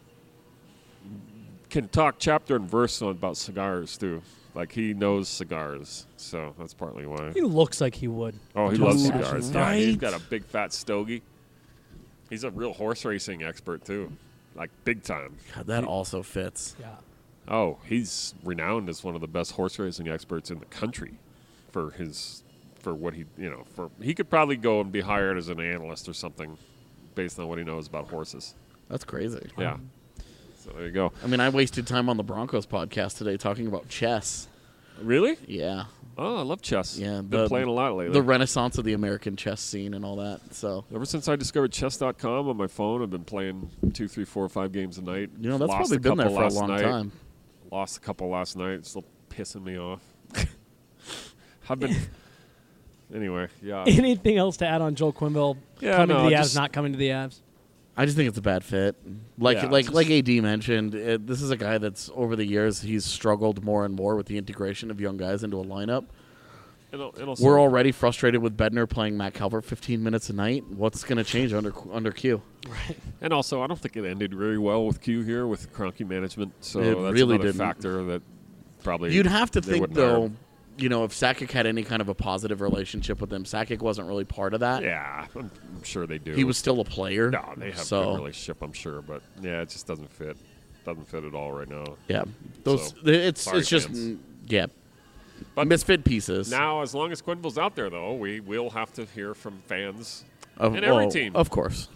can talk chapter and verse on about cigars too. Like he knows cigars, so that's partly why. He looks like he would. Oh, he Dude, loves cigars. Yeah, he's right? got a big fat stogie. He's a real horse racing expert too, like big time. God, that also fits. Yeah. Oh, he's renowned as one of the best horse racing experts in the country for his for what he you know for he could probably go and be hired as an analyst or something based on what he knows about horses. That's crazy. Yeah. So there you go. I mean, I wasted time on the Broncos podcast today talking about chess. Really? Yeah. Oh, I love chess. Yeah. Been playing a lot lately. The renaissance of the American chess scene and all that. So Ever since I discovered chess dot com on my phone, I've been playing two, three, four, five games a night. You know, that's Lost probably a been there couple for a last long night. time. Lost a couple last night. It's still pissing me off. I've been. Anyway, yeah. Anything else to add on Joel Quenneville Yeah, coming no, to the just- Avs, not coming to the Avs? I just think it's a bad fit. Like Yeah, like just- like A D mentioned, it, this is a guy that's over the years he's struggled more and more with the integration of young guys into a lineup. And al- and also- We're already frustrated with Bednar playing Matt Calvert fifteen minutes a night. What's going to change under under Q? Right. And also, I don't think it ended very well with Q here with Kroenke management. So It that's really another didn't. factor that probably You'd have to they think wouldn't hire though, him. you know, if Sakic had any kind of a positive relationship with him, Sakic wasn't really part of that. Yeah, I'm, I'm sure they do. He was still a player. No, they have so, a good relationship, I'm sure, but yeah, it just doesn't fit. Doesn't fit at all right now. Yeah, those So, it's sorry, it's just fans. mm, yeah, But misfit pieces. Now, as long as Quenneville's out there, though, we will have to hear from fans Of, in every well, team. of course.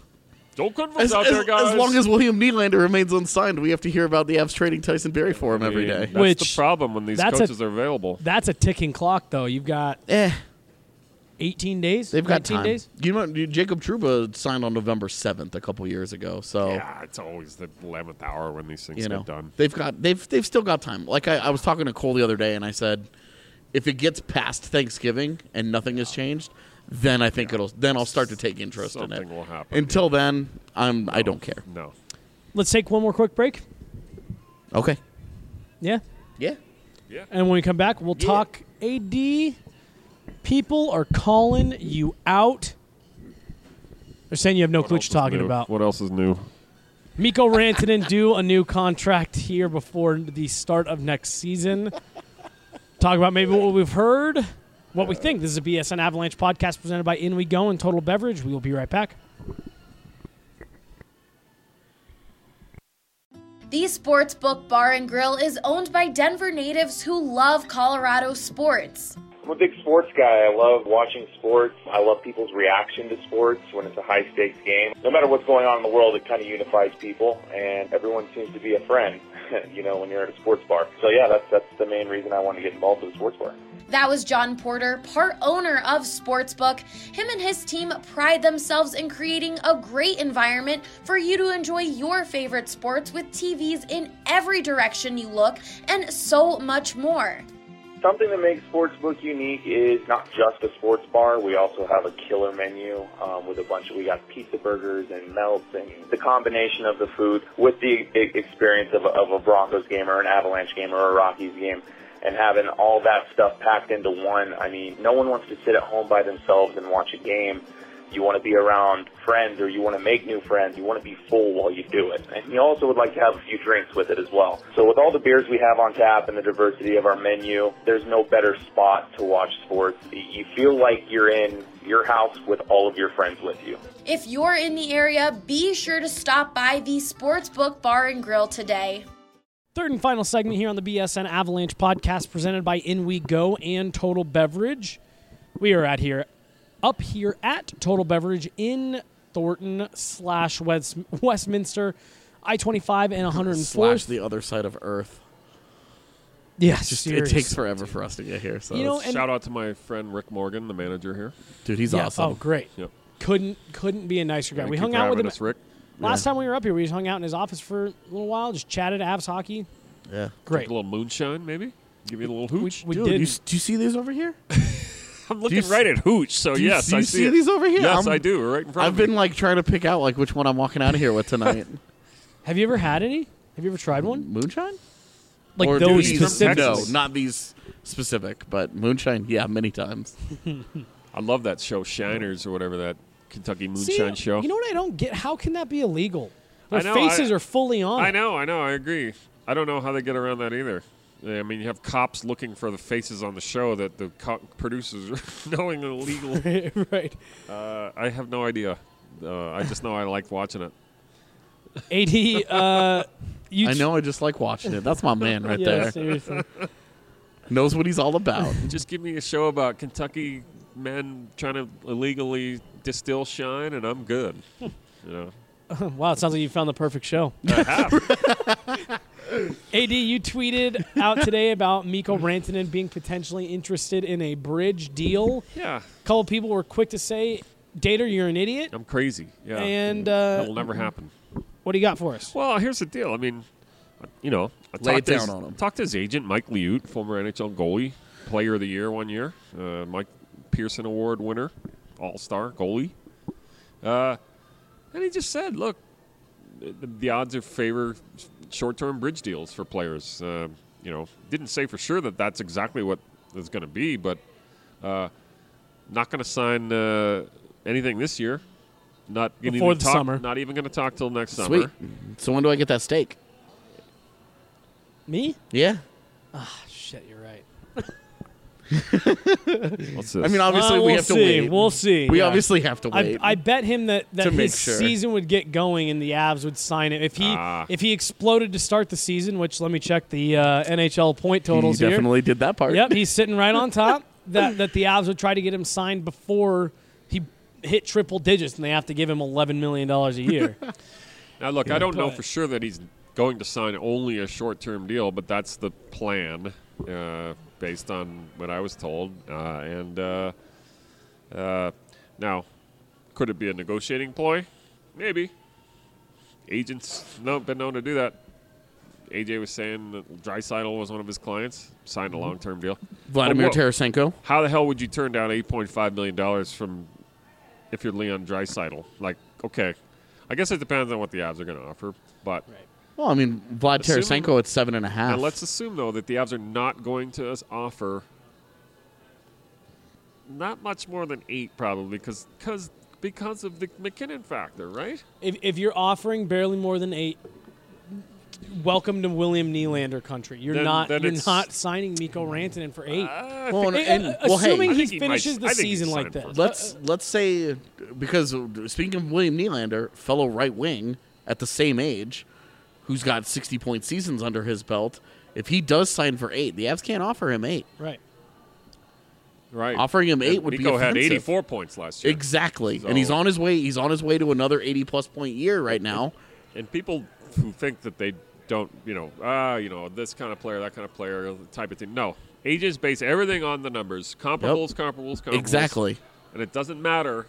Don't converse As, out as, there, guys. as long as William Nylander remains unsigned, we have to hear about the Avs trading Tyson Barrie for him every day. That's Which- the problem when these that's coaches a- are available. That's a ticking clock, though. You've got Eh, eighteen days. they've got nineteen time. days. You know, Jacob Trouba signed on November seventh a couple years ago, so Yeah, it's always the eleventh hour when these things you know get done. they've got they've they've still got time. Like I, I was talking to Cole the other day, and I said, if it gets past Thanksgiving and nothing has changed, then I think it'll then I'll start to take interest in Something it. will happen. Until then, I'm I don't care. No. Let's take one more quick break. Okay. Yeah. Yeah. And when we come back, we'll Yeah. talk A D. People are calling you out. They're saying you have no What clue else what you're is talking new? about. What else is new? Mikko Rantanen due a new contract here before the start of next season. Talk about maybe what we've heard, what we think. This is a B S N Avalanche podcast presented by In We Go and Total Beverage. We will be right back. The Sportsbook Bar and Grill is owned by Denver natives who love Colorado sports. I'm a big sports guy. I love watching sports. I love people's reaction to sports when it's a high-stakes game. No matter what's going on in the world, it kind of unifies people, and everyone seems to be a friend, you know, when you're at a sports bar. So, yeah, that's that's the main reason I want to get involved with a sports bar. That was John Porter, part owner of Sportsbook. Him and his team pride themselves in creating a great environment for you to enjoy your favorite sports with T Vs in every direction you look and so much more. Something that makes Sportsbook unique is not just a sports bar. We also have a killer menu um, with a bunch of, we got pizza burgers and melts, and the combination of the food with the e- experience of a, of a Broncos game or an Avalanche game or a Rockies game, and having all that stuff packed into one. I mean, no one wants to sit at home by themselves and watch a game. You want to be around friends, or you want to make new friends. You want to be full while you do it. And you also would like to have a few drinks with it as well. So with all the beers we have on tap and the diversity of our menu, there's no better spot to watch sports. You feel like you're in your house with all of your friends with you. If you're in the area, be sure to stop by the Sportsbook Bar and Grill today. Third and final segment here on the B S N Avalanche podcast presented by In We Go and Total Beverage. We are at here, up here at Total Beverage in Thornton slash West, Westminster, I twenty-five and one hundred fourth. Slash the other side of Earth. Yes, Just, it takes forever for us to get here. So You know, and- Shout out to my friend Rick Morgan, the manager here. dude, he's Yeah, awesome. Oh, great. Yep. Couldn't couldn't be a nicer guy. Thank we you hung for out with having him. us, Rick. Last Yeah. time we were up here, we just hung out in his office for a little while, just chatted Avs hockey. Yeah. Great. A little moonshine, maybe? Give you a little hooch? We Dude, did. you, s- do you see these over here? I'm looking you right at hooch, so do you- yes, do you I see it. these over here? Yes, I'm- I do. We're right in front I've of me. been like trying to pick out like which one I'm walking out of here with tonight. Have you ever had any? Have you ever tried one? Moonshine? Like or those these- specific? No, not these specific, but moonshine. Yeah, many times. I love that show, Shiners, or whatever, that Kentucky See, Moonshine show. You know what I don't get? How can that be illegal? Their I know, faces I- are fully on. I it. know, I know, I agree. I don't know how they get around that either. I mean, you have cops looking for the faces on the show that the co- producers are knowing are illegal. Right. Uh, I have no idea. Uh, I just know I like watching it. A D, uh, you I know. I just like watching it. That's my man right yeah, there. seriously. Knows what he's all about. Just give me a show about Kentucky men trying to illegally distill shine, and I'm good. You know. Wow, it sounds like you found the perfect show. I have. A D, you tweeted out today about Mikko Rantanen being potentially interested in a bridge deal. Yeah. A couple people were quick to say, Dater, you're an idiot. I'm crazy. Yeah. And uh, that will never happen. What do you got for us? Well, here's the deal. I mean, you know, I Lay talked it to down his, on him. Talked to his agent, Mike Liut, former N H L goalie, player of the year one year, uh, Mike Pearson Award winner, all-star goalie. Uh, and he just said, look, the, the odds are favor short-term bridge deals for players. Uh, you know, didn't say for sure that that's exactly what it's going to be, but uh, not going to sign uh, anything this year. Not gonna Before even the talk, summer. Not even going to talk till next Sweet. summer. So when do I get that steak? Me? Yeah. Ah, shit, you're right. What's this? I mean, obviously Uh, we we'll have to see. wait. We'll see. We yeah. obviously have to I, wait. I bet him that, that To make his sure. season would get going and the Avs would sign it. If he Ah. if he exploded to start the season, which let me check the uh, N H L point he totals here. definitely did that part. Yep, he's sitting right on top. That that the Avs would try to get him signed before he hit triple digits and they have to give him eleven million dollars a year. Now, look, Yeah, I don't know but- for sure that he's going to sign only a short-term deal, but that's the plan uh, based on what I was told. Uh, and uh, uh, now, could it be a negotiating ploy? Maybe. Agents no, been known to do that. A J was saying that Draisaitl was one of his clients, signed a long-term deal. Vladimir But what- Tarasenko. How the hell would you turn down eight point five million dollars from if you're Leon Draisaitl? Like, okay, I guess it depends on what the Avs are going to offer, but Well, I mean, Vlad Assuming- Tarasenko at seven and a half. and let's assume though that the Avs are not going to us offer not much more than eight, probably, because because because of the McKinnon factor, right? If, if you're offering barely more than eight, welcome to William Nylander country. You're Then- not then you're it's- not signing Mikko Rantanen for eight. Uh, Well, and- Eh, and- uh, well, hey, assuming I he think he might- finishes the I think he's season like signed this. for- Let's let's say because speaking of William Nylander, fellow right wing at the same age, who's got sixty point seasons under his belt, if he does sign for eight, the Avs can't offer him eight. Right. Right. Offering him eight And would be Mikko had offensive. eighty-four points last year. Exactly, So- and he's on his way. He's on his way to another eighty plus point year right now. And people who think that they don't, you know, ah, you know, this kind of player, that kind of player, type of thing. No, A J's base everything on the numbers, comparables, comparables, comparables. Exactly. And it doesn't matter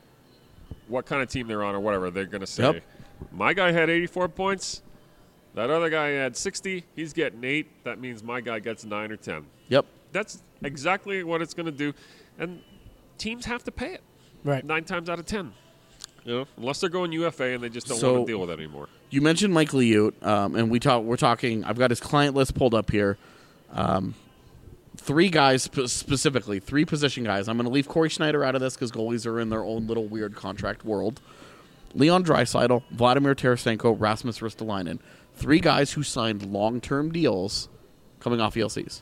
what kind of team they're on or whatever. They're going to say, Yep. my guy had eighty-four points. That other guy had sixty. He's getting eight. That means my guy gets nine or ten. Yep. That's exactly what it's going to do. And teams have to pay it. Right. Nine times out of ten. You know, unless they're going U F A and they just don't So- want to deal with it anymore. You mentioned Mike Liut, um, and we talk. We're talking. I've got his client list pulled up here. Um, three guys sp- specifically, three position guys. I'm going to leave Corey Schneider out of this because goalies are in their own little weird contract world. Leon Draisaitl, Vladimir Tarasenko, Rasmus Ristolainen. Three guys who signed long-term deals coming off E L Cs.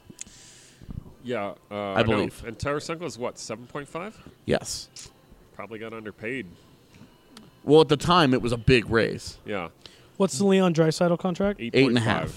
Yeah, uh, I know. believe. And Tarasenko is what, seven point five? Yes. Probably got underpaid. Well, at the time, it was a big raise. Yeah, What's the Leon Draisaitl contract? eight Eight and a point half.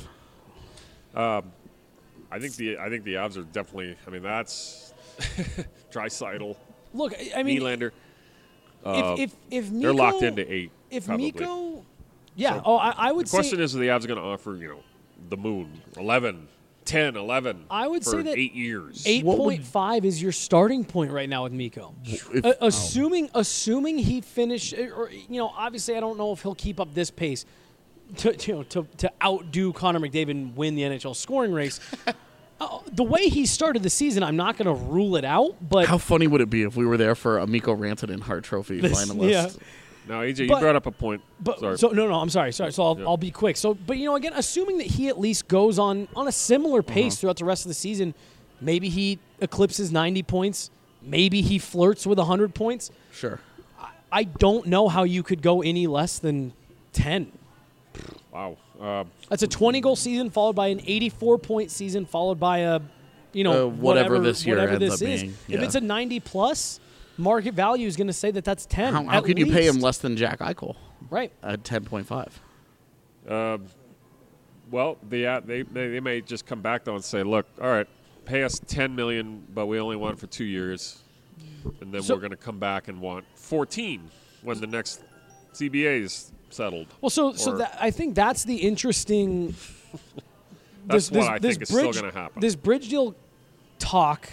five. Um, I think the I think the Avs are definitely. I mean, that's Draisaitl, Look, I- I mean, Nylander. Uh, if if if Mikko, they're locked into eight. If probably. Mikko, yeah. So, oh, I, I would The question say is, are the Avs going to offer you know the moon eleven, ten, eleven? I would for say that eight years. eight What would- point five is your starting point right now with Mikko. If- Uh, assuming assuming he finish, or you know, obviously I don't know if he'll keep up this pace to you know to to outdo Connor McDavid and win the N H L scoring race. uh, the way he started the season, I'm not going to rule it out, but How funny would it be if we were there for a Mikko Rantanen Hart Trophy This- finalist? yeah. Now, A J, you But- brought up a point. But Sorry. so no, no, I'm sorry, sorry. So I'll, Yeah. I'll be quick. So, but you know, again, assuming that he at least goes on on a similar pace Uh-huh. throughout the rest of the season, maybe he eclipses ninety points. Maybe he flirts with one hundred points. Sure. I don't know how you could go any less than ten. Wow. Uh, That's a twenty goal season followed by an eighty-four point season followed by a, you know, Uh, whatever this year whatever ends this up is. being, If yeah. it's a ninety plus, market value is going to say that that's ten. How, how at could you pay him least. less than Jack Eichel Right. at ten point five? Um, well, the, uh, they, they they may just come back though and say, look, all right, pay us ten million, but we only want it for two years, and then So- we're going to come back and want fourteen when the next C B A is settled. Well, so so Or- that, I think that's the interesting. That's this, what this, I this think is still bridge, gonna happen. This bridge deal talk.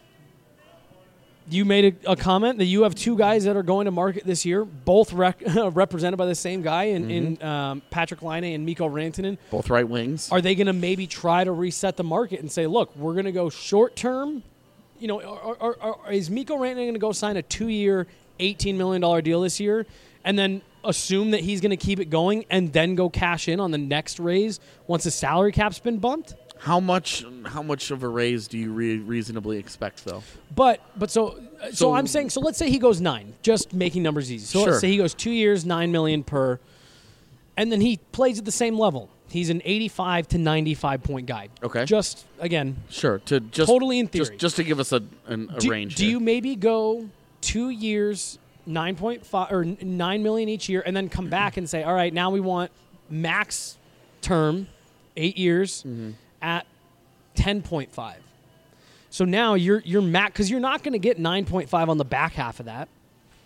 You made a, a comment that you have two guys that are going to market this year, both rec- represented by the same guy in, in um, Patrick Laine and Mikko Rantanen. Both right wings. Are they going to maybe try to reset the market and say, look, we're going to go short term? You know, or, or, or is Mikko Rantanen going to go sign a two-year, eighteen million dollars deal this year and then assume that he's going to keep it going and then go cash in on the next raise once the salary cap's been bumped? How much? How much of a raise do you re- reasonably expect, though? But but so, uh, so So- I'm saying so let's say he goes nine, just making numbers easy. So Sure. let's say he goes two years, nine million per, and then he plays at the same level. He's an eighty-five to ninety-five point guy. Okay. Just again, Sure. To just Totally in theory. Just, just to give us a, an, a do, range. do here. you maybe go two years, nine point five or n- nine million each year, and then come back and say, all right, now we want max term, eight years Mm-hmm. at ten point five. So now you're you're max because you're not going to get nine point five on the back half of that.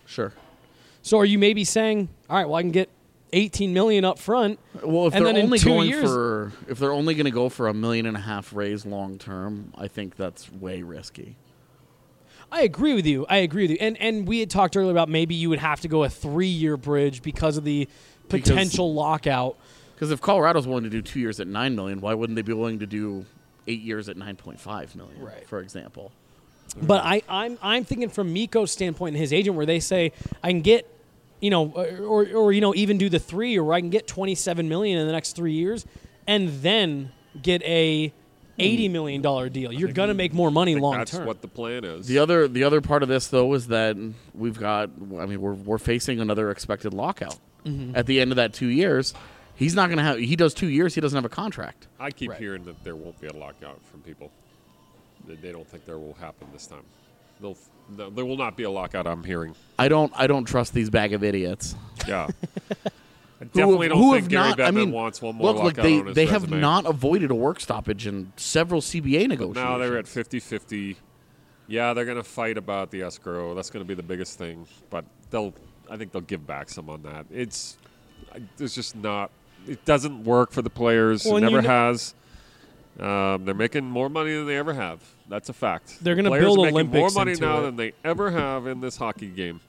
Sure. So are you maybe saying, all right, well, I can get eighteen million up front. Well, if and they're then only in two going years, for if they're only going to go for a million and a half raise long term, I think that's way risky. I agree with you. I agree with you. And and we had talked earlier about maybe you would have to go a three-year bridge because of the potential because, lockout. Because if Colorado's willing to do two years at nine million, why wouldn't they be willing to do eight years at nine point five million? Right. For example. But I, I'm I'm thinking from Mikko's standpoint and his agent, where they say I can get, you know, or or you know even do the three, or I can get twenty-seven million in the next three years, and then get a eighty million dollar deal. You're gonna make more money long that's term. That's what the plan is. The other the other part of this though is that we've got. I mean, we're we're facing another expected lockout mm-hmm. at the end of that two years. He's not gonna have. He does two years. He doesn't have a contract. I keep right. hearing that there won't be a lockout from people. They, they don't think there will happen this time. They'll, no, there will not be a lockout. I'm hearing. I don't. I don't trust these bag of idiots. Yeah. I definitely who, don't who think have Gary not, Bettman I mean, wants one more look, lockout look, they, on his they have resume. not avoided a work stoppage in several C B A negotiations. But now they're at fifty-fifty. Yeah, they're going to fight about the escrow. That's going to be the biggest thing. But they'll, I think they'll give back some on that. It's, it's just not. It doesn't work for the players. Well, it never you know, has. Um, they're making more money than they ever have. That's a fact. They're going to Players build are making Olympics more money into now it. than they ever have in this hockey game.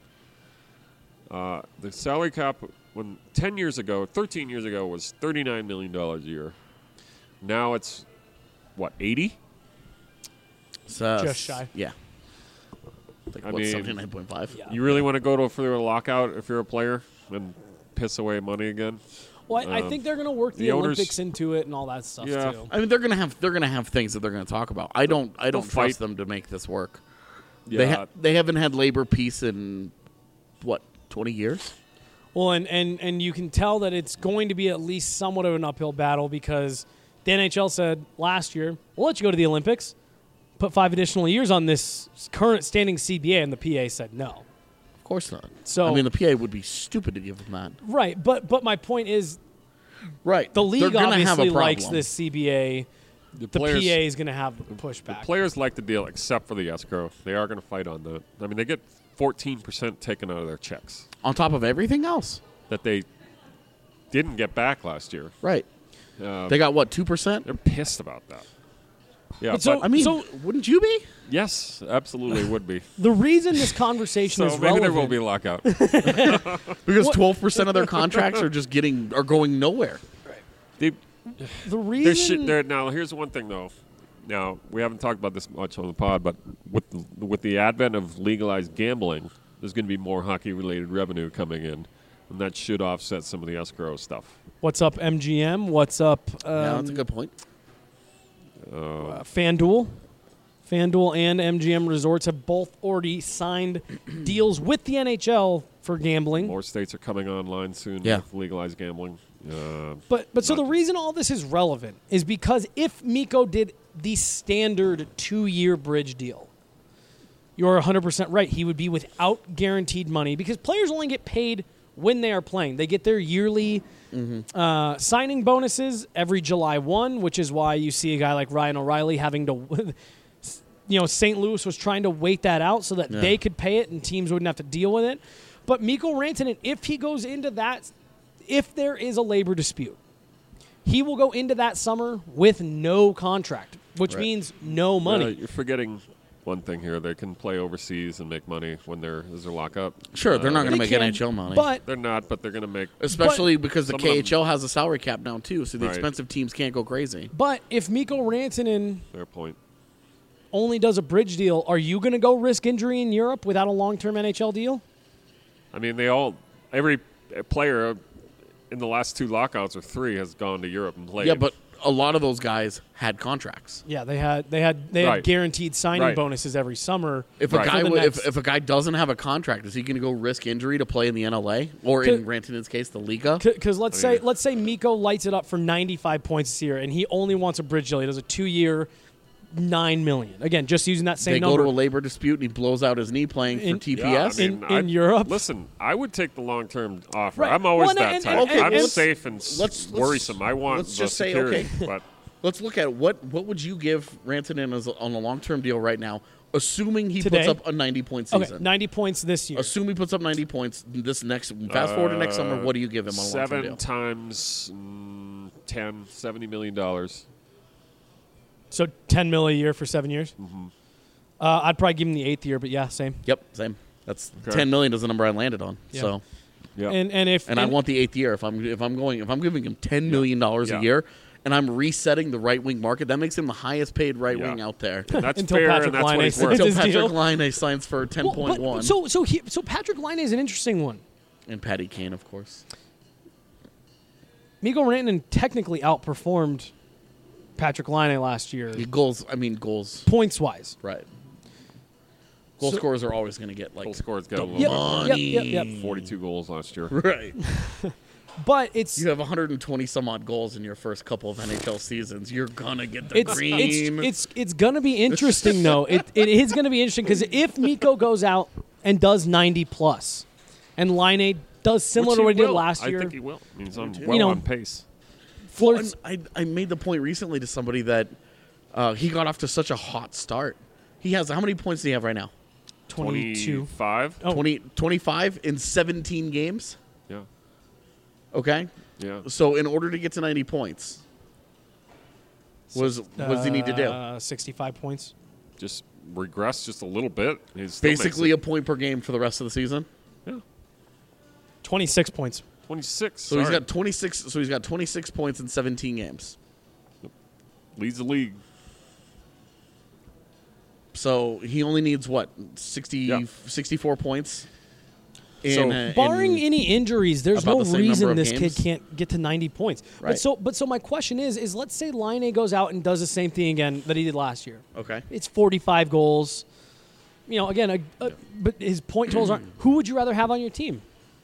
Uh, the salary cap, when ten years ago, thirteen years ago, was thirty-nine million dollars a year. Now it's, what, eighty? So, Just shy. Yeah. Like, I what, mean, seventy-nine point five? Yeah. You really want to go to for a lockout if you're a player and piss away money again? Well, I, I Um, think they're going to work the, the owners- Olympics into it and all that stuff Yeah. too. I mean, they're gonna have they're gonna have things that they're gonna talk about. I don't I don't They'll trust fight. them to make this work. Yeah. They ha- they haven't had labor peace in what twenty years. Well, and, and, and you can tell that it's going to be at least somewhat of an uphill battle because the N H L said last year, we'll let you go to the Olympics, put five additional years on this current standing C B A, and the P A said no. Of course not. So I mean, the P A would be stupid to give them that. Right, but but my point is, Right, the They're league gonna have a obviously likes problem. this C B A. The, The players, P A is going to have the pushback. players like the deal except for the escrow. They are going to fight on that. I mean, they get fourteen percent taken out of their checks On top of everything else. that they didn't get back last year. Right. Uh, They got what two percent? they're pissed about that. Yeah, But but, so- I mean, So- wouldn't you be? yes, absolutely would be. The reason this conversation So is maybe relevant, there will be a lockout. Because twelve percent of their contracts are just getting are going nowhere. They, the There reason should, there, now, here's one thing, though. Now, we haven't talked about this much on the pod, but with the, with the advent of legalized gambling, there's going to be more hockey-related revenue coming in, and that should offset some of the escrow stuff. what's up M G M? What's up um, yeah, that's a good point. uh, FanDuel? FanDuel and M G M Resorts have both already signed deals with the N H L for gambling. More states are coming online soon Yeah. with legalized gambling. Uh, But but so Not- the reason all this is relevant is because if Mikko did the standard two-year bridge deal, you're one hundred percent right. He would be without guaranteed money because players only get paid when they are playing. They get their yearly uh, signing bonuses every July first, which is why you see a guy like Ryan O'Reilly having to, you know, Saint Louis was trying to wait that out so that Yeah. they could pay it and teams wouldn't have to deal with it. But Mikko Rantanen, if he goes into that, if there is a labor dispute, he will go into that summer with no contract, which Right. means no money. uh, you're forgetting one thing here. They can play overseas and make money when there is a lockup. Sure, they're Uh, not going They to make can, N H L money. But They're not, but they're going to make. Especially because the some of them- K H L has a salary cap now, too, so the Right. expensive teams can't go crazy. but if Mikko Rantanen Fair point. only does a bridge deal, are you going to go risk injury in Europe without a long-term N H L deal? I mean, they all, every player in the last two lockouts or three has gone to Europe and played. Yeah, but a lot of those guys had contracts. Yeah, they had they had they had Right. guaranteed signing Right. bonuses every summer. If Right. a guy For the w- if, next- if a guy doesn't have a contract, is he going to go risk injury to play in the N L A or in Could- Rantanen's case, the Liga? Because let's I mean- say let's say Mikko lights it up for ninety-five points this year, and he only wants a bridge deal. He does a two-year, nine million. Again, just using that same They number. go to a labor dispute and he blows out his knee playing In- for T P Yeah, S. I mean, in- in I'd- Europe? Listen, I would take the long-term offer. Right. I'm always Well, and- that and- type. and- and- I'm and- safe and s- let's- let's- worrisome. I want let's the just say, security. okay. But Let's look at what what would you give Rantanen as a, on a long term deal right now Assuming he Today? puts up a ninety-point season. Okay, ninety points this year. Assume he puts up ninety points this next. Fast forward to next Uh, summer. What do you give him on a long-term Seven deal? times mm, ten, seventy million dollars. So ten mil a year for seven years. Mm-hmm. Uh, I'd probably give him the eighth year, but yeah, same. Yep, same. That's Okay. ten million is the number I landed on. Yeah. So, Yeah. And and if and I want the eighth year. If I'm if I'm going if I'm giving him ten million dollars Yeah. a year, and I'm resetting the right wing market, that makes him the highest paid right Yeah. wing out there. And that's Until fair, Patrick and that's what Laine he's says worth. his Until Patrick deal. Laine signs for ten Well, point but- one. So so he, so Patrick Laine is an interesting one. And Patty Kane, of course. Miko Rantanen technically outperformed Patrick Laine last year, He goals. I mean goals. points wise. Right. Goal So- scorers are always going to get like Goal scorer's got a little Yep, money. yep, yep, yep. forty-two goals last year. Right. But it's You have one hundred twenty some odd goals in your first couple of N H L seasons. You're gonna get the it's, green. it's it's it's gonna be interesting though. It it is gonna be interesting because if Miko goes out and does ninety plus, and Laine does similar Which to what he did will. last I year, think he will. He's on, You well know, on pace. flirts. I, I made the point recently to somebody that uh, he got off to such a hot start. He has how many points do he have right now? twenty-two. twenty-five? Oh. twenty, twenty-five in seventeen games. Yeah. Okay. Yeah. So in order to get to ninety points, was what does he need to do? Uh, Sixty-five points. Just regress just a little bit. He's still makes Basically it. a point per game for the rest of the season. Yeah. Twenty-six points. twenty-six. So he's sorry. got twenty-six. So he's got twenty-six points in seventeen games. Leads the league. So he only needs what sixty, Yeah. sixty-four points. So, In, uh, Barring in- any injuries, there's about no the same number reason of this games. kid can't get to ninety points. But Right. so, but so my question is, is let's say Laine goes out and does the same thing again that he did last year. Okay. It's forty-five goals. You know, again, a, a, but his point totals aren't. Who would you rather have on your team,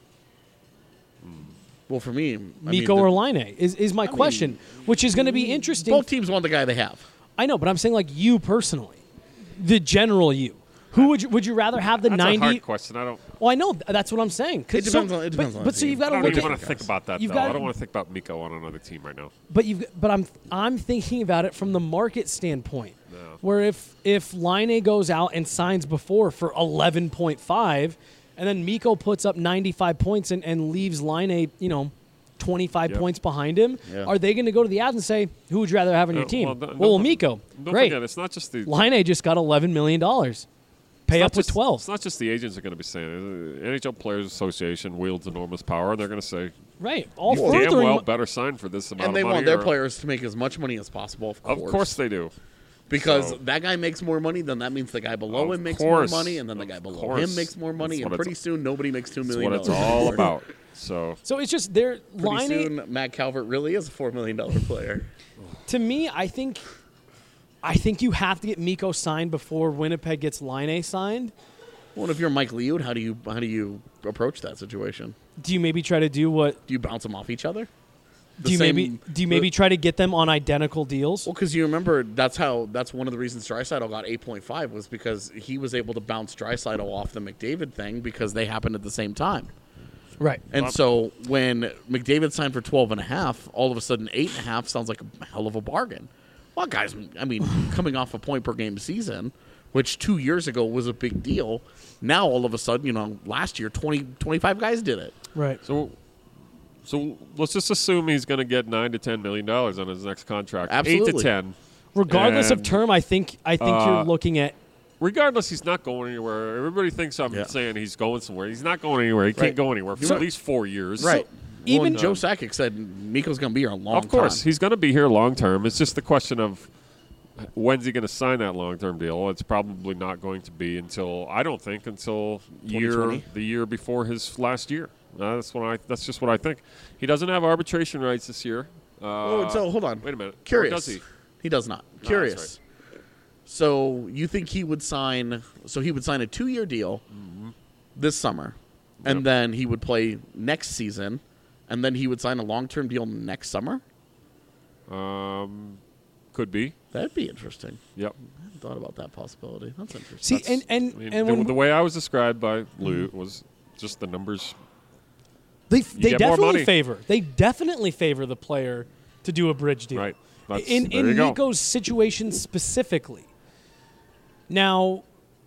Well, for me, I Miko mean, the- or Laine? Is is my question, which is going to be interesting. both teams want the guy they have. I know, but I'm saying like you personally, the general you. Who would you would you rather have the That's ninety? a hard question. I don't. Well, I know th- that's what I'm saying. 'Cause It depends so, on- it depends but, on but the so team. you've got I to don't look even at. want to think about that, You've though. got- I don't want to think about Miko on another team right now. But you've but I'm I'm thinking about it from the market standpoint, where if if Laine goes out and signs before for eleven point five, and then Miko puts up ninety-five points and, and leaves Laine, you know, twenty-five Yep. points behind him, Yeah. are they going to go to the ads and say, who would you rather have on your Uh, team? well, don't- Well, don't- Miko, Don't great. forget, it's not just the. Laine just got eleven million dollars. Pay it's not up with just- twelve. It's not just the agents are going to be saying it. The N H L Players Association wields enormous power, and they're going to say, Right. All "You damn furthering well mo- better sign for this amount And they of money." want their or- players to make as much money as possible, of course. Of course they do. Because So- that guy makes more money, then that means the guy below Of him makes course. more money, and then the Of guy below course. him makes more money, That's and what pretty it's- soon nobody makes two That's million what it's dollars. all about. So So it's just they're Pretty Laine. soon, Matt Calvert really is a four million dollar player. To me, I think, I think you have to get Miko signed before Winnipeg gets Laine signed. Well, if you're Mike Liud, how do you how do you approach that situation? Do you maybe try to do what? Do you bounce them off each other? The Do you maybe same- do you maybe try to get them on identical deals? Well, because you remember that's how that's one of the reasons Draisaitl got eight point five was because he was able to bounce Draisaitl off the McDavid thing because they happened at the same time. Right. And so when McDavid signed for twelve and a half, all of a sudden eight and a half sounds like a hell of a bargain. Well, guys, I mean, coming off a point per game season, which two years ago was a big deal, now all of a sudden, you know, last year twenty, twenty-five guys did it. Right. So, so let's just assume he's going to get nine to ten million dollars on his next contract. Eight Absolutely. to ten. Regardless of And, term, I think I think uh, you're looking at Regardless, he's not going anywhere. Everybody thinks I'm Yeah. saying he's going somewhere. He's not going anywhere. He Right. can't go anywhere for So- at least four years. Right. even- Even Joe Sakic said Miko's going to be here a long time. Of course, he's going to be here long term. It's just the question of when's he going to sign that long term deal. It's probably not going to be until I don't think until year twenty twenty? the year before his last year. Uh, that's what I. That's just what I think. He doesn't have arbitration rights this year. Uh, Oh, so hold on. Wait a minute. Or Curious. does he? He does not. that's Curious. So you think he would sign? So he would sign a two-year deal this summer, and Yep. then he would play next season, and then he would sign a long-term deal next summer. Um, could be. That'd be interesting. Yep. I hadn't thought about that possibility. That's interesting. see That's- and and, I mean, and the, when the way I was described by Lou was just the numbers. they they get more definitely money. favor they definitely favor the player to do a bridge deal. Right. That's, in there in you go. Miko's situation specifically. Now,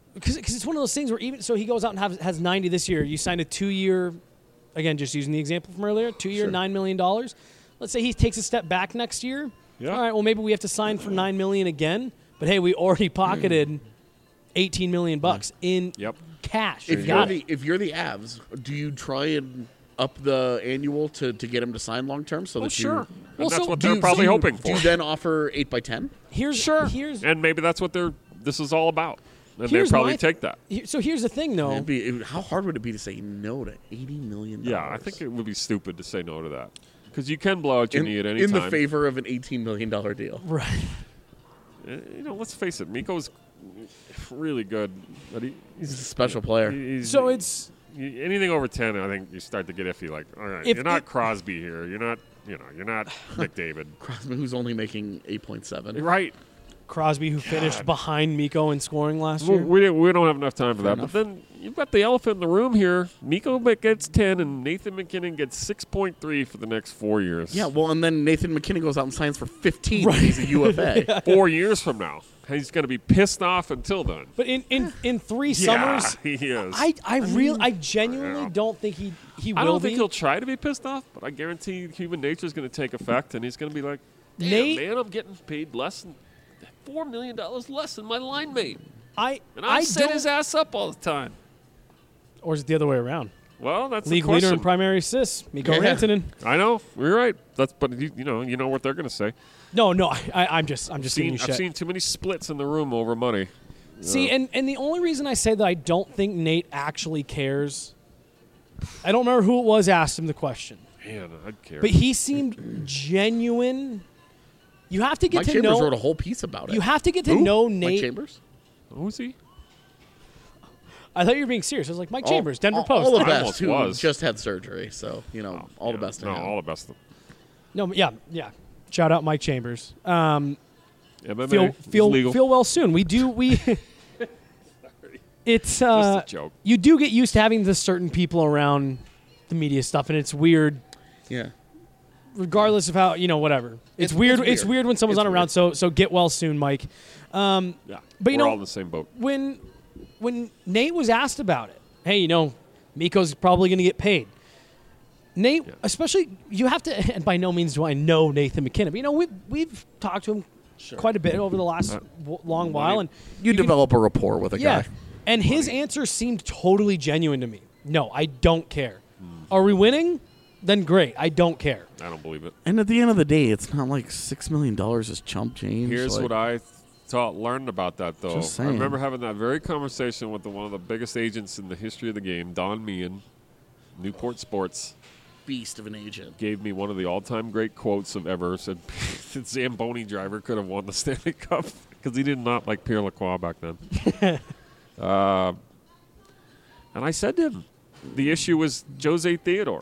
because it's one of those things where even so he goes out and have, has ninety this year. You signed a two-year, again, just using the example from earlier, two-year, Sure. nine million dollars. Let's say he takes a step back next year. Yeah. All right, well, maybe we have to sign for nine million dollars again. But, hey, we already pocketed eighteen million dollars bucks in Yep. cash. If You you're got the it. if you're the Avs, do you try and up the annual to, to get him to sign long term so Oh, that sure. you? And Well, that's so what do they're you- probably do you- hoping Do for. you then offer eight by ten? Here's, Sure. Here's, And maybe that's what they're. This is all about. And they Here's probably my- take that. here- so here's the thing, though. It'd be, it- how hard would it be to say no to eighty million dollars? Yeah, I think it would be stupid to say no to that because you can blow out your in, knee at any in time. the favor of an eighteen million dollar deal. Right. Uh, You know, let's face it, Miko's really good, but he, He's a special player. he's, So it's you- anything over ten. I think you start to get iffy. Like, all right, If- you're not if- Crosby here. You're not, you know, you're not McDavid. Crosby, who's only making eight point seven. Right. Crosby, who finished behind Miko in scoring last Well, year. we don't, we don't have enough time for Fair that. enough. But then you've got the elephant in the room here. Miko gets ten, and Nathan McKinnon gets six point three for the next four years. Yeah, well, and then Nathan McKinnon goes out and signs for fifteen. Right. He's a U F A. Four years from now, he's going to be pissed off until then. But in, in, in three Yeah, summers, he is. I I really I genuinely yeah. don't think he he will I don't be. think he'll try to be pissed off, but I guarantee human nature is going to take effect, and he's going to be like, "Damn, Nate- man, I'm getting paid less than four million dollars less than my line mate, I and I, I set don't- his ass up all the time." Or is it the other way around? Well, that's League the leader in question. primary assists, Mikko Yeah. Rantanen. I know you're right. That's but you, you know you know what they're going to say. No, no, I, I, I'm just I'm just giving Seen, you I've shit. seen too many splits in the room over money. See, and, and the only reason I say that I don't think Nate actually cares, I don't remember who it was asked him the question, Man, I'd care. but he seemed genuine. You have to get Mike to Chambers know. wrote a whole piece about it. You have to get to Who? know Mike Nate. Chambers? Who's he? I thought you were being serious. I was like Mike All- Chambers, Denver all, Post. All the I best. almost Who was. just had surgery, so you know, all the Yeah, best to No, him. all the best. No, yeah, yeah. Shout out Mike Chambers. Um, M M A feel is feel legal. feel well soon. We do we. It's uh, Just a joke. you do get used to having the certain people around the media stuff, and it's weird, Yeah. regardless of how you know whatever. It's, It's- weird. it's It's weird. weird when someone's It's not around. weird. So so get well soon, Mike. Um, Yeah, but you we're know- all in the same boat. when when Nate was asked about it, hey, you know, Miko's probably going to get paid. Nate, Yeah. especially you have to, and by no means do I know Nathan McKinnon, but you know we've we've talked to him quite a bit over the last Uh, w- long while, and You, can- develop a rapport with a yeah, guy. and his answer seemed totally genuine to me. No, I don't care. Hmm. Are we winning? Then great. I don't care. I don't believe it. And at the end of the day, it's not like six million dollars is chump change. Here's like, what I thought learned about that though. Just I saying. remember having that very conversation with the, one of the biggest agents in the history of the game, Don Meehan, Newport Sports. beast of an agent. Gave me one of the all-time great quotes of ever. Said the Zamboni driver could have won the Stanley Cup because he did not like Pierre Lacroix back then. uh, and I said to him, the issue was Jose Theodore.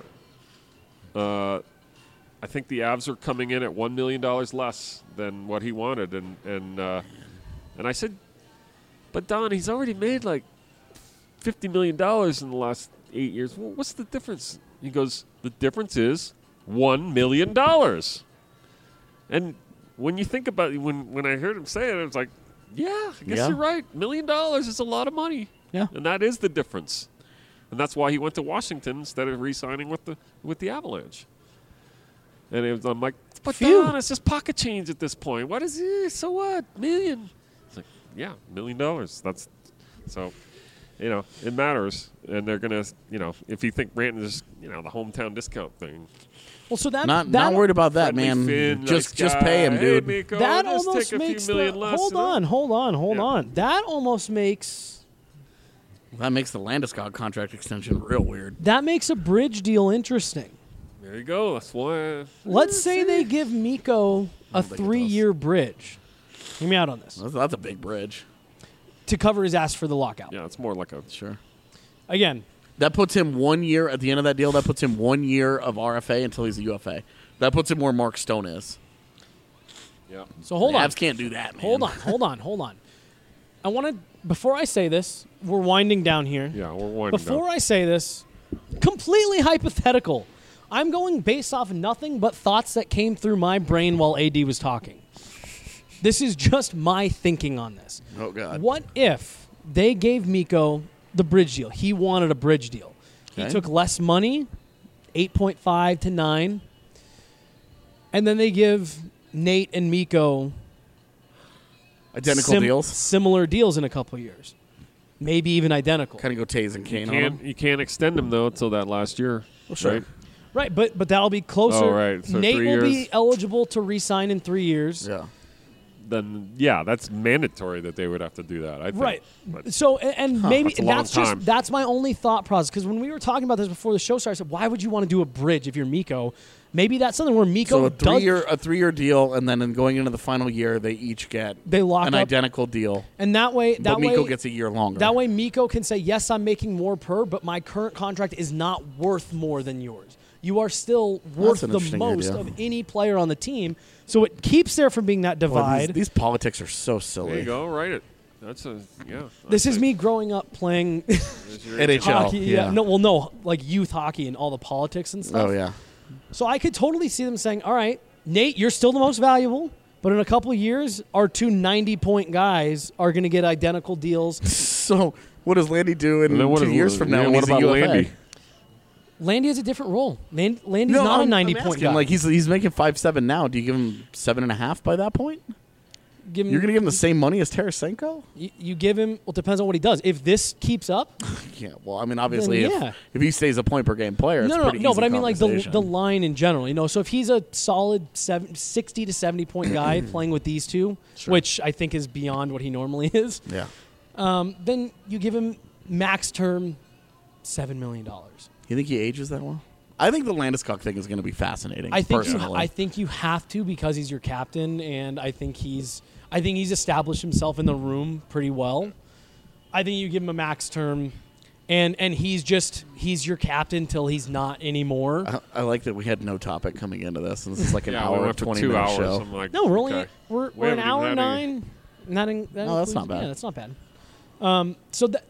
Uh, I think the Avs are coming in at one million dollars less than what he wanted, and and uh, and I said, but Don, he's already made like fifty million dollars in the last eight years. Well, what's the difference? He goes, the difference is one million dollars. And when you think about it, when when I heard him say it, I was like, yeah, I guess Yeah. you're right. Million dollars is a lot of money. Yeah. And that is the difference. And that's why he went to Washington instead of re-signing with the with the Avalanche. And it was, I'm like, but Phew. Don, it's just pocket change at this point. What is it? So what? Million. It's like, yeah, million dollars. That's so, you know, it matters. And they're gonna, you know, if you think Ranton is, you know, the hometown discount thing. Well, so that Not that not worried about that, Friendly man. Finn, just nice just guy. pay him, Hey, dude. Miko, that just almost take a few makes the million less, hold you know? on, hold on, hold Yeah. on. That almost makes That makes the Landeskog contract extension real weird. that makes a bridge deal interesting. There you go. That's why. Let's say they give Miko a think it does. three-year bridge. Hear me out on this. That's, that's a big bridge. To cover his ass for the lockout. Yeah, it's more like a. Sure. Again, That puts him one year at the end of that deal. That puts him one year of R F A until he's a U F A. That puts him where Mark Stone is. Yeah. so hold the on. Avs can't do that, man. Hold on, hold on, hold on. I want to, before I say this, we're winding down here. Yeah, we're winding Before down. I say this, completely hypothetical. I'm going based off nothing but thoughts that came through my brain while A D was talking. This is just my thinking on this. Oh God. What if they gave Miko the bridge deal. He wanted a bridge deal. He Okay. took less money, eight point five to nine. And then they give Nate and Miko Identical sim- deals? Similar deals in a couple of years. Maybe even identical. Kind of go Taze and Kane You on can't, them. you can't extend him, though, until that last year. Well, sure. Right? Right, but but that'll be closer. Oh, right. So Nate three will be years. eligible to re-sign in three years. Yeah. Then, yeah, that's mandatory that they would have to do that, I think. Right. But So and, and maybe That's a long that's time. just that's my only thought process, because when we were talking about this before the show started, I said, why would you want to do a bridge if you're Miko? Maybe that's something where Miko So a does three-year a three-year deal, and then in going into the final year, they each get They lock an up- identical deal. and that way that but Miko way gets a year longer. that way Miko can say, yes, I'm making more per, but my current contract is not worth more than yours. You are still worth an the interesting most idea. of any player on the team. So it keeps there from being that Boy, divide. these, these politics are so silly. there you go. Write it. That's a, yeah. This that's is it. me growing up playing There's your N H L. hockey. Yeah. No, well, no, like youth hockey and all the politics and stuff. Oh, yeah. So I could totally see them saying, all right, Nate, you're still the most valuable, but in a couple of years, our two ninety-point guys are going to get identical deals. So what does Landy do in And then what two is- years from now yeah, when what he's about a U F A? Landy? Landy has a different role. Land, Landy's No, not I'm, a I'm ninety-point asking, guy. Like he's he's making five seven now. Do you give him seven and a half by that point? Give him- You're going to give him the same money as Tarasenko? You, you give him, well, it depends on what he does. If this keeps up, Yeah. Well, I mean, obviously, Then if, yeah. if he stays a point per game player, it's no, a no, pretty no, easy but I mean like the conversation. the line in general, you know. So if he's a solid seven, sixty to seventy point guy playing with these two, Sure. which I think is beyond what he normally is, Yeah. um, then you give him max term seven million dollars. You think he ages that well? I think the Landeskog thing is going to be fascinating. I think you, personally. I think you have to, because he's your captain, and I think he's I think he's established himself in the room pretty well. I think you give him a max term, and and he's just he's your captain till he's not anymore. I, I like that we had no topic coming into this, and this is like an Yeah, we hour went and for twenty two minute hours. show. I'm like, no, we're only okay. we're, We we're an haven't hour even had any- nine. Not in, that Oh, that's includes- not bad. Yeah, that's not bad. Um, so that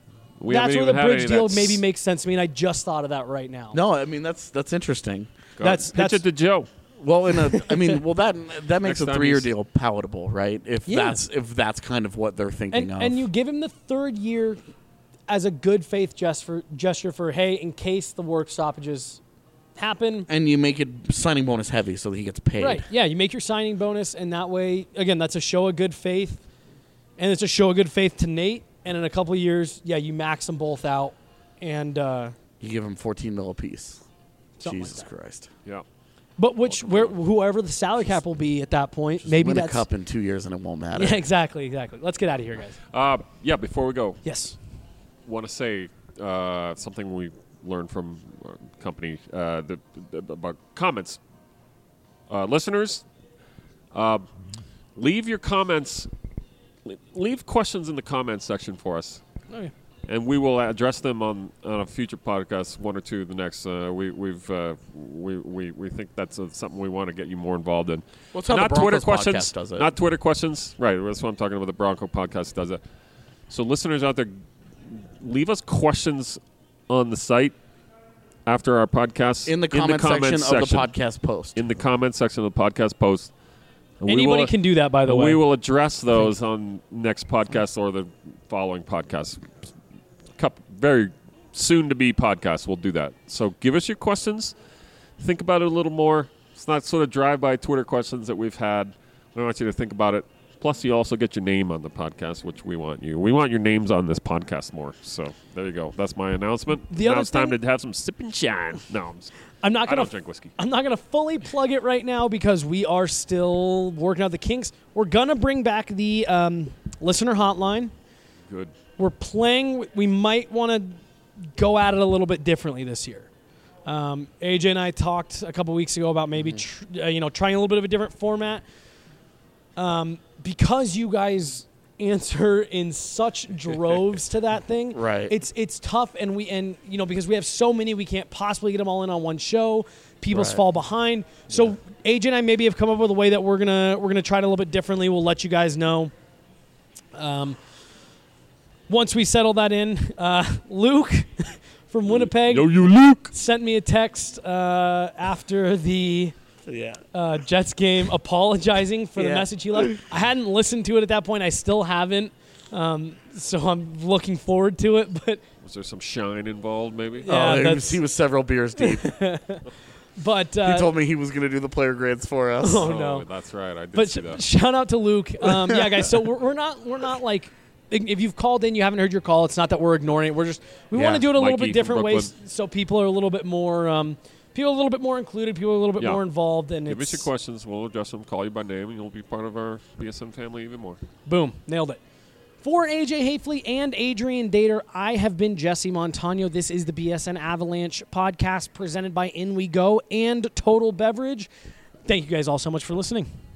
We that's haven't where the even had any bridge of deal that maybe s- makes sense to me, and I just thought of that right now. No, I mean that's that's interesting. Go That's- ahead. Pitch that's- it to Joe. Well, in a, I mean, well that that makes Next a time three year he's- deal palatable, right? If Yeah. that's if that's kind of what they're thinking and of. and you give him the third year as a good faith gesture gesture for, hey, in case the work stoppages happen. And you make it signing bonus heavy so that he gets paid. Right. Yeah, you make your signing bonus, and that way, again, that's a show of good faith, and it's a show of good faith to Nate. And in a couple of years, yeah, you max them both out, and uh, You give him fourteen mil apiece. Something like Jesus that. Christ. Yeah. but which where whoever the salary cap will be at that point, Just maybe win that's a cup in two years and it won't matter. yeah, exactly, exactly. Let's get out of here, guys. Uh, yeah, before we go, Yes. want to say uh, something we learned from our company uh, the, the, about comments. Uh, listeners, uh, leave your comments, leave questions in the comments section for us. Okay. And we will address them on, on a future podcast, one or two. The next, uh, we we've uh, we, we we think that's uh something we want to get you more involved in. Well, it's how the not Twitter Broncos questions, podcast does it. not Twitter questions. Right, that's what I'm talking about. The Bronco podcast does it. So, listeners out there, leave us questions on the site after our podcast In the comment, section, section of the podcast post. In the comment section of the podcast post. And we Anybody will- can do that, by the and way. We will address those on next podcast or the following podcast. Couple, very soon to be podcast. We'll do that. So give us your questions. Think about it a little more. It's not sort of drive-by Twitter questions that we've had. We want you to think about it. Plus, you also get your name on the podcast, which we want you. We want your names on this podcast more. So there you go. That's my announcement. The now other it's time thing- to have some sip and shine. No, I'm, s- I'm not I gonna don't drink whiskey. I'm not gonna fully plug it right now because we are still working out the kinks. We're gonna bring back the um, listener hotline. Good. We're playing. We might want to go at it a little bit differently this year. Um, A J and I talked a couple weeks ago about maybe tr- uh, you know trying a little bit of a different format. Um, because you guys answer in such droves to that thing, Right. It's it's tough, and we and you know because we have so many, we can't possibly get them all in on one show. People Right. fall behind. So A J and I maybe have come up with a way that we're gonna we're gonna try it a little bit differently. We'll let you guys know. Um, once we settle that in, uh, Luke from Winnipeg Yo, you Luke. sent me a text uh, after the Yeah. uh, Jets game apologizing for the Yeah. message he left. I hadn't listened to it at that point. I still haven't. Um, so I'm looking forward to it. But was there some shine involved, maybe? Yeah, oh, he that's- was, he was several beers deep. but uh, he told me he was going to do the player grades for us. Oh, no. That's right. I did But see sh- that. shout out to Luke. Um, yeah, guys. So we're, we're not we're not like if you've called in, you haven't heard your call. It's not that we're ignoring it. We're just we Yeah, want to do it a little Mikey bit different from ways, so people are a little bit more um, people are a little bit more included, people are a little bit Yeah. more involved, and Give it's us your questions. We'll address them, call you by name, and you'll be part of our B S N family even more. boom, nailed it. For A J Hafley and Adrian Dater, I have been Jesse Montano. This is the B S N Avalanche podcast presented by In We Go and Total Beverage. Thank you guys all so much for listening.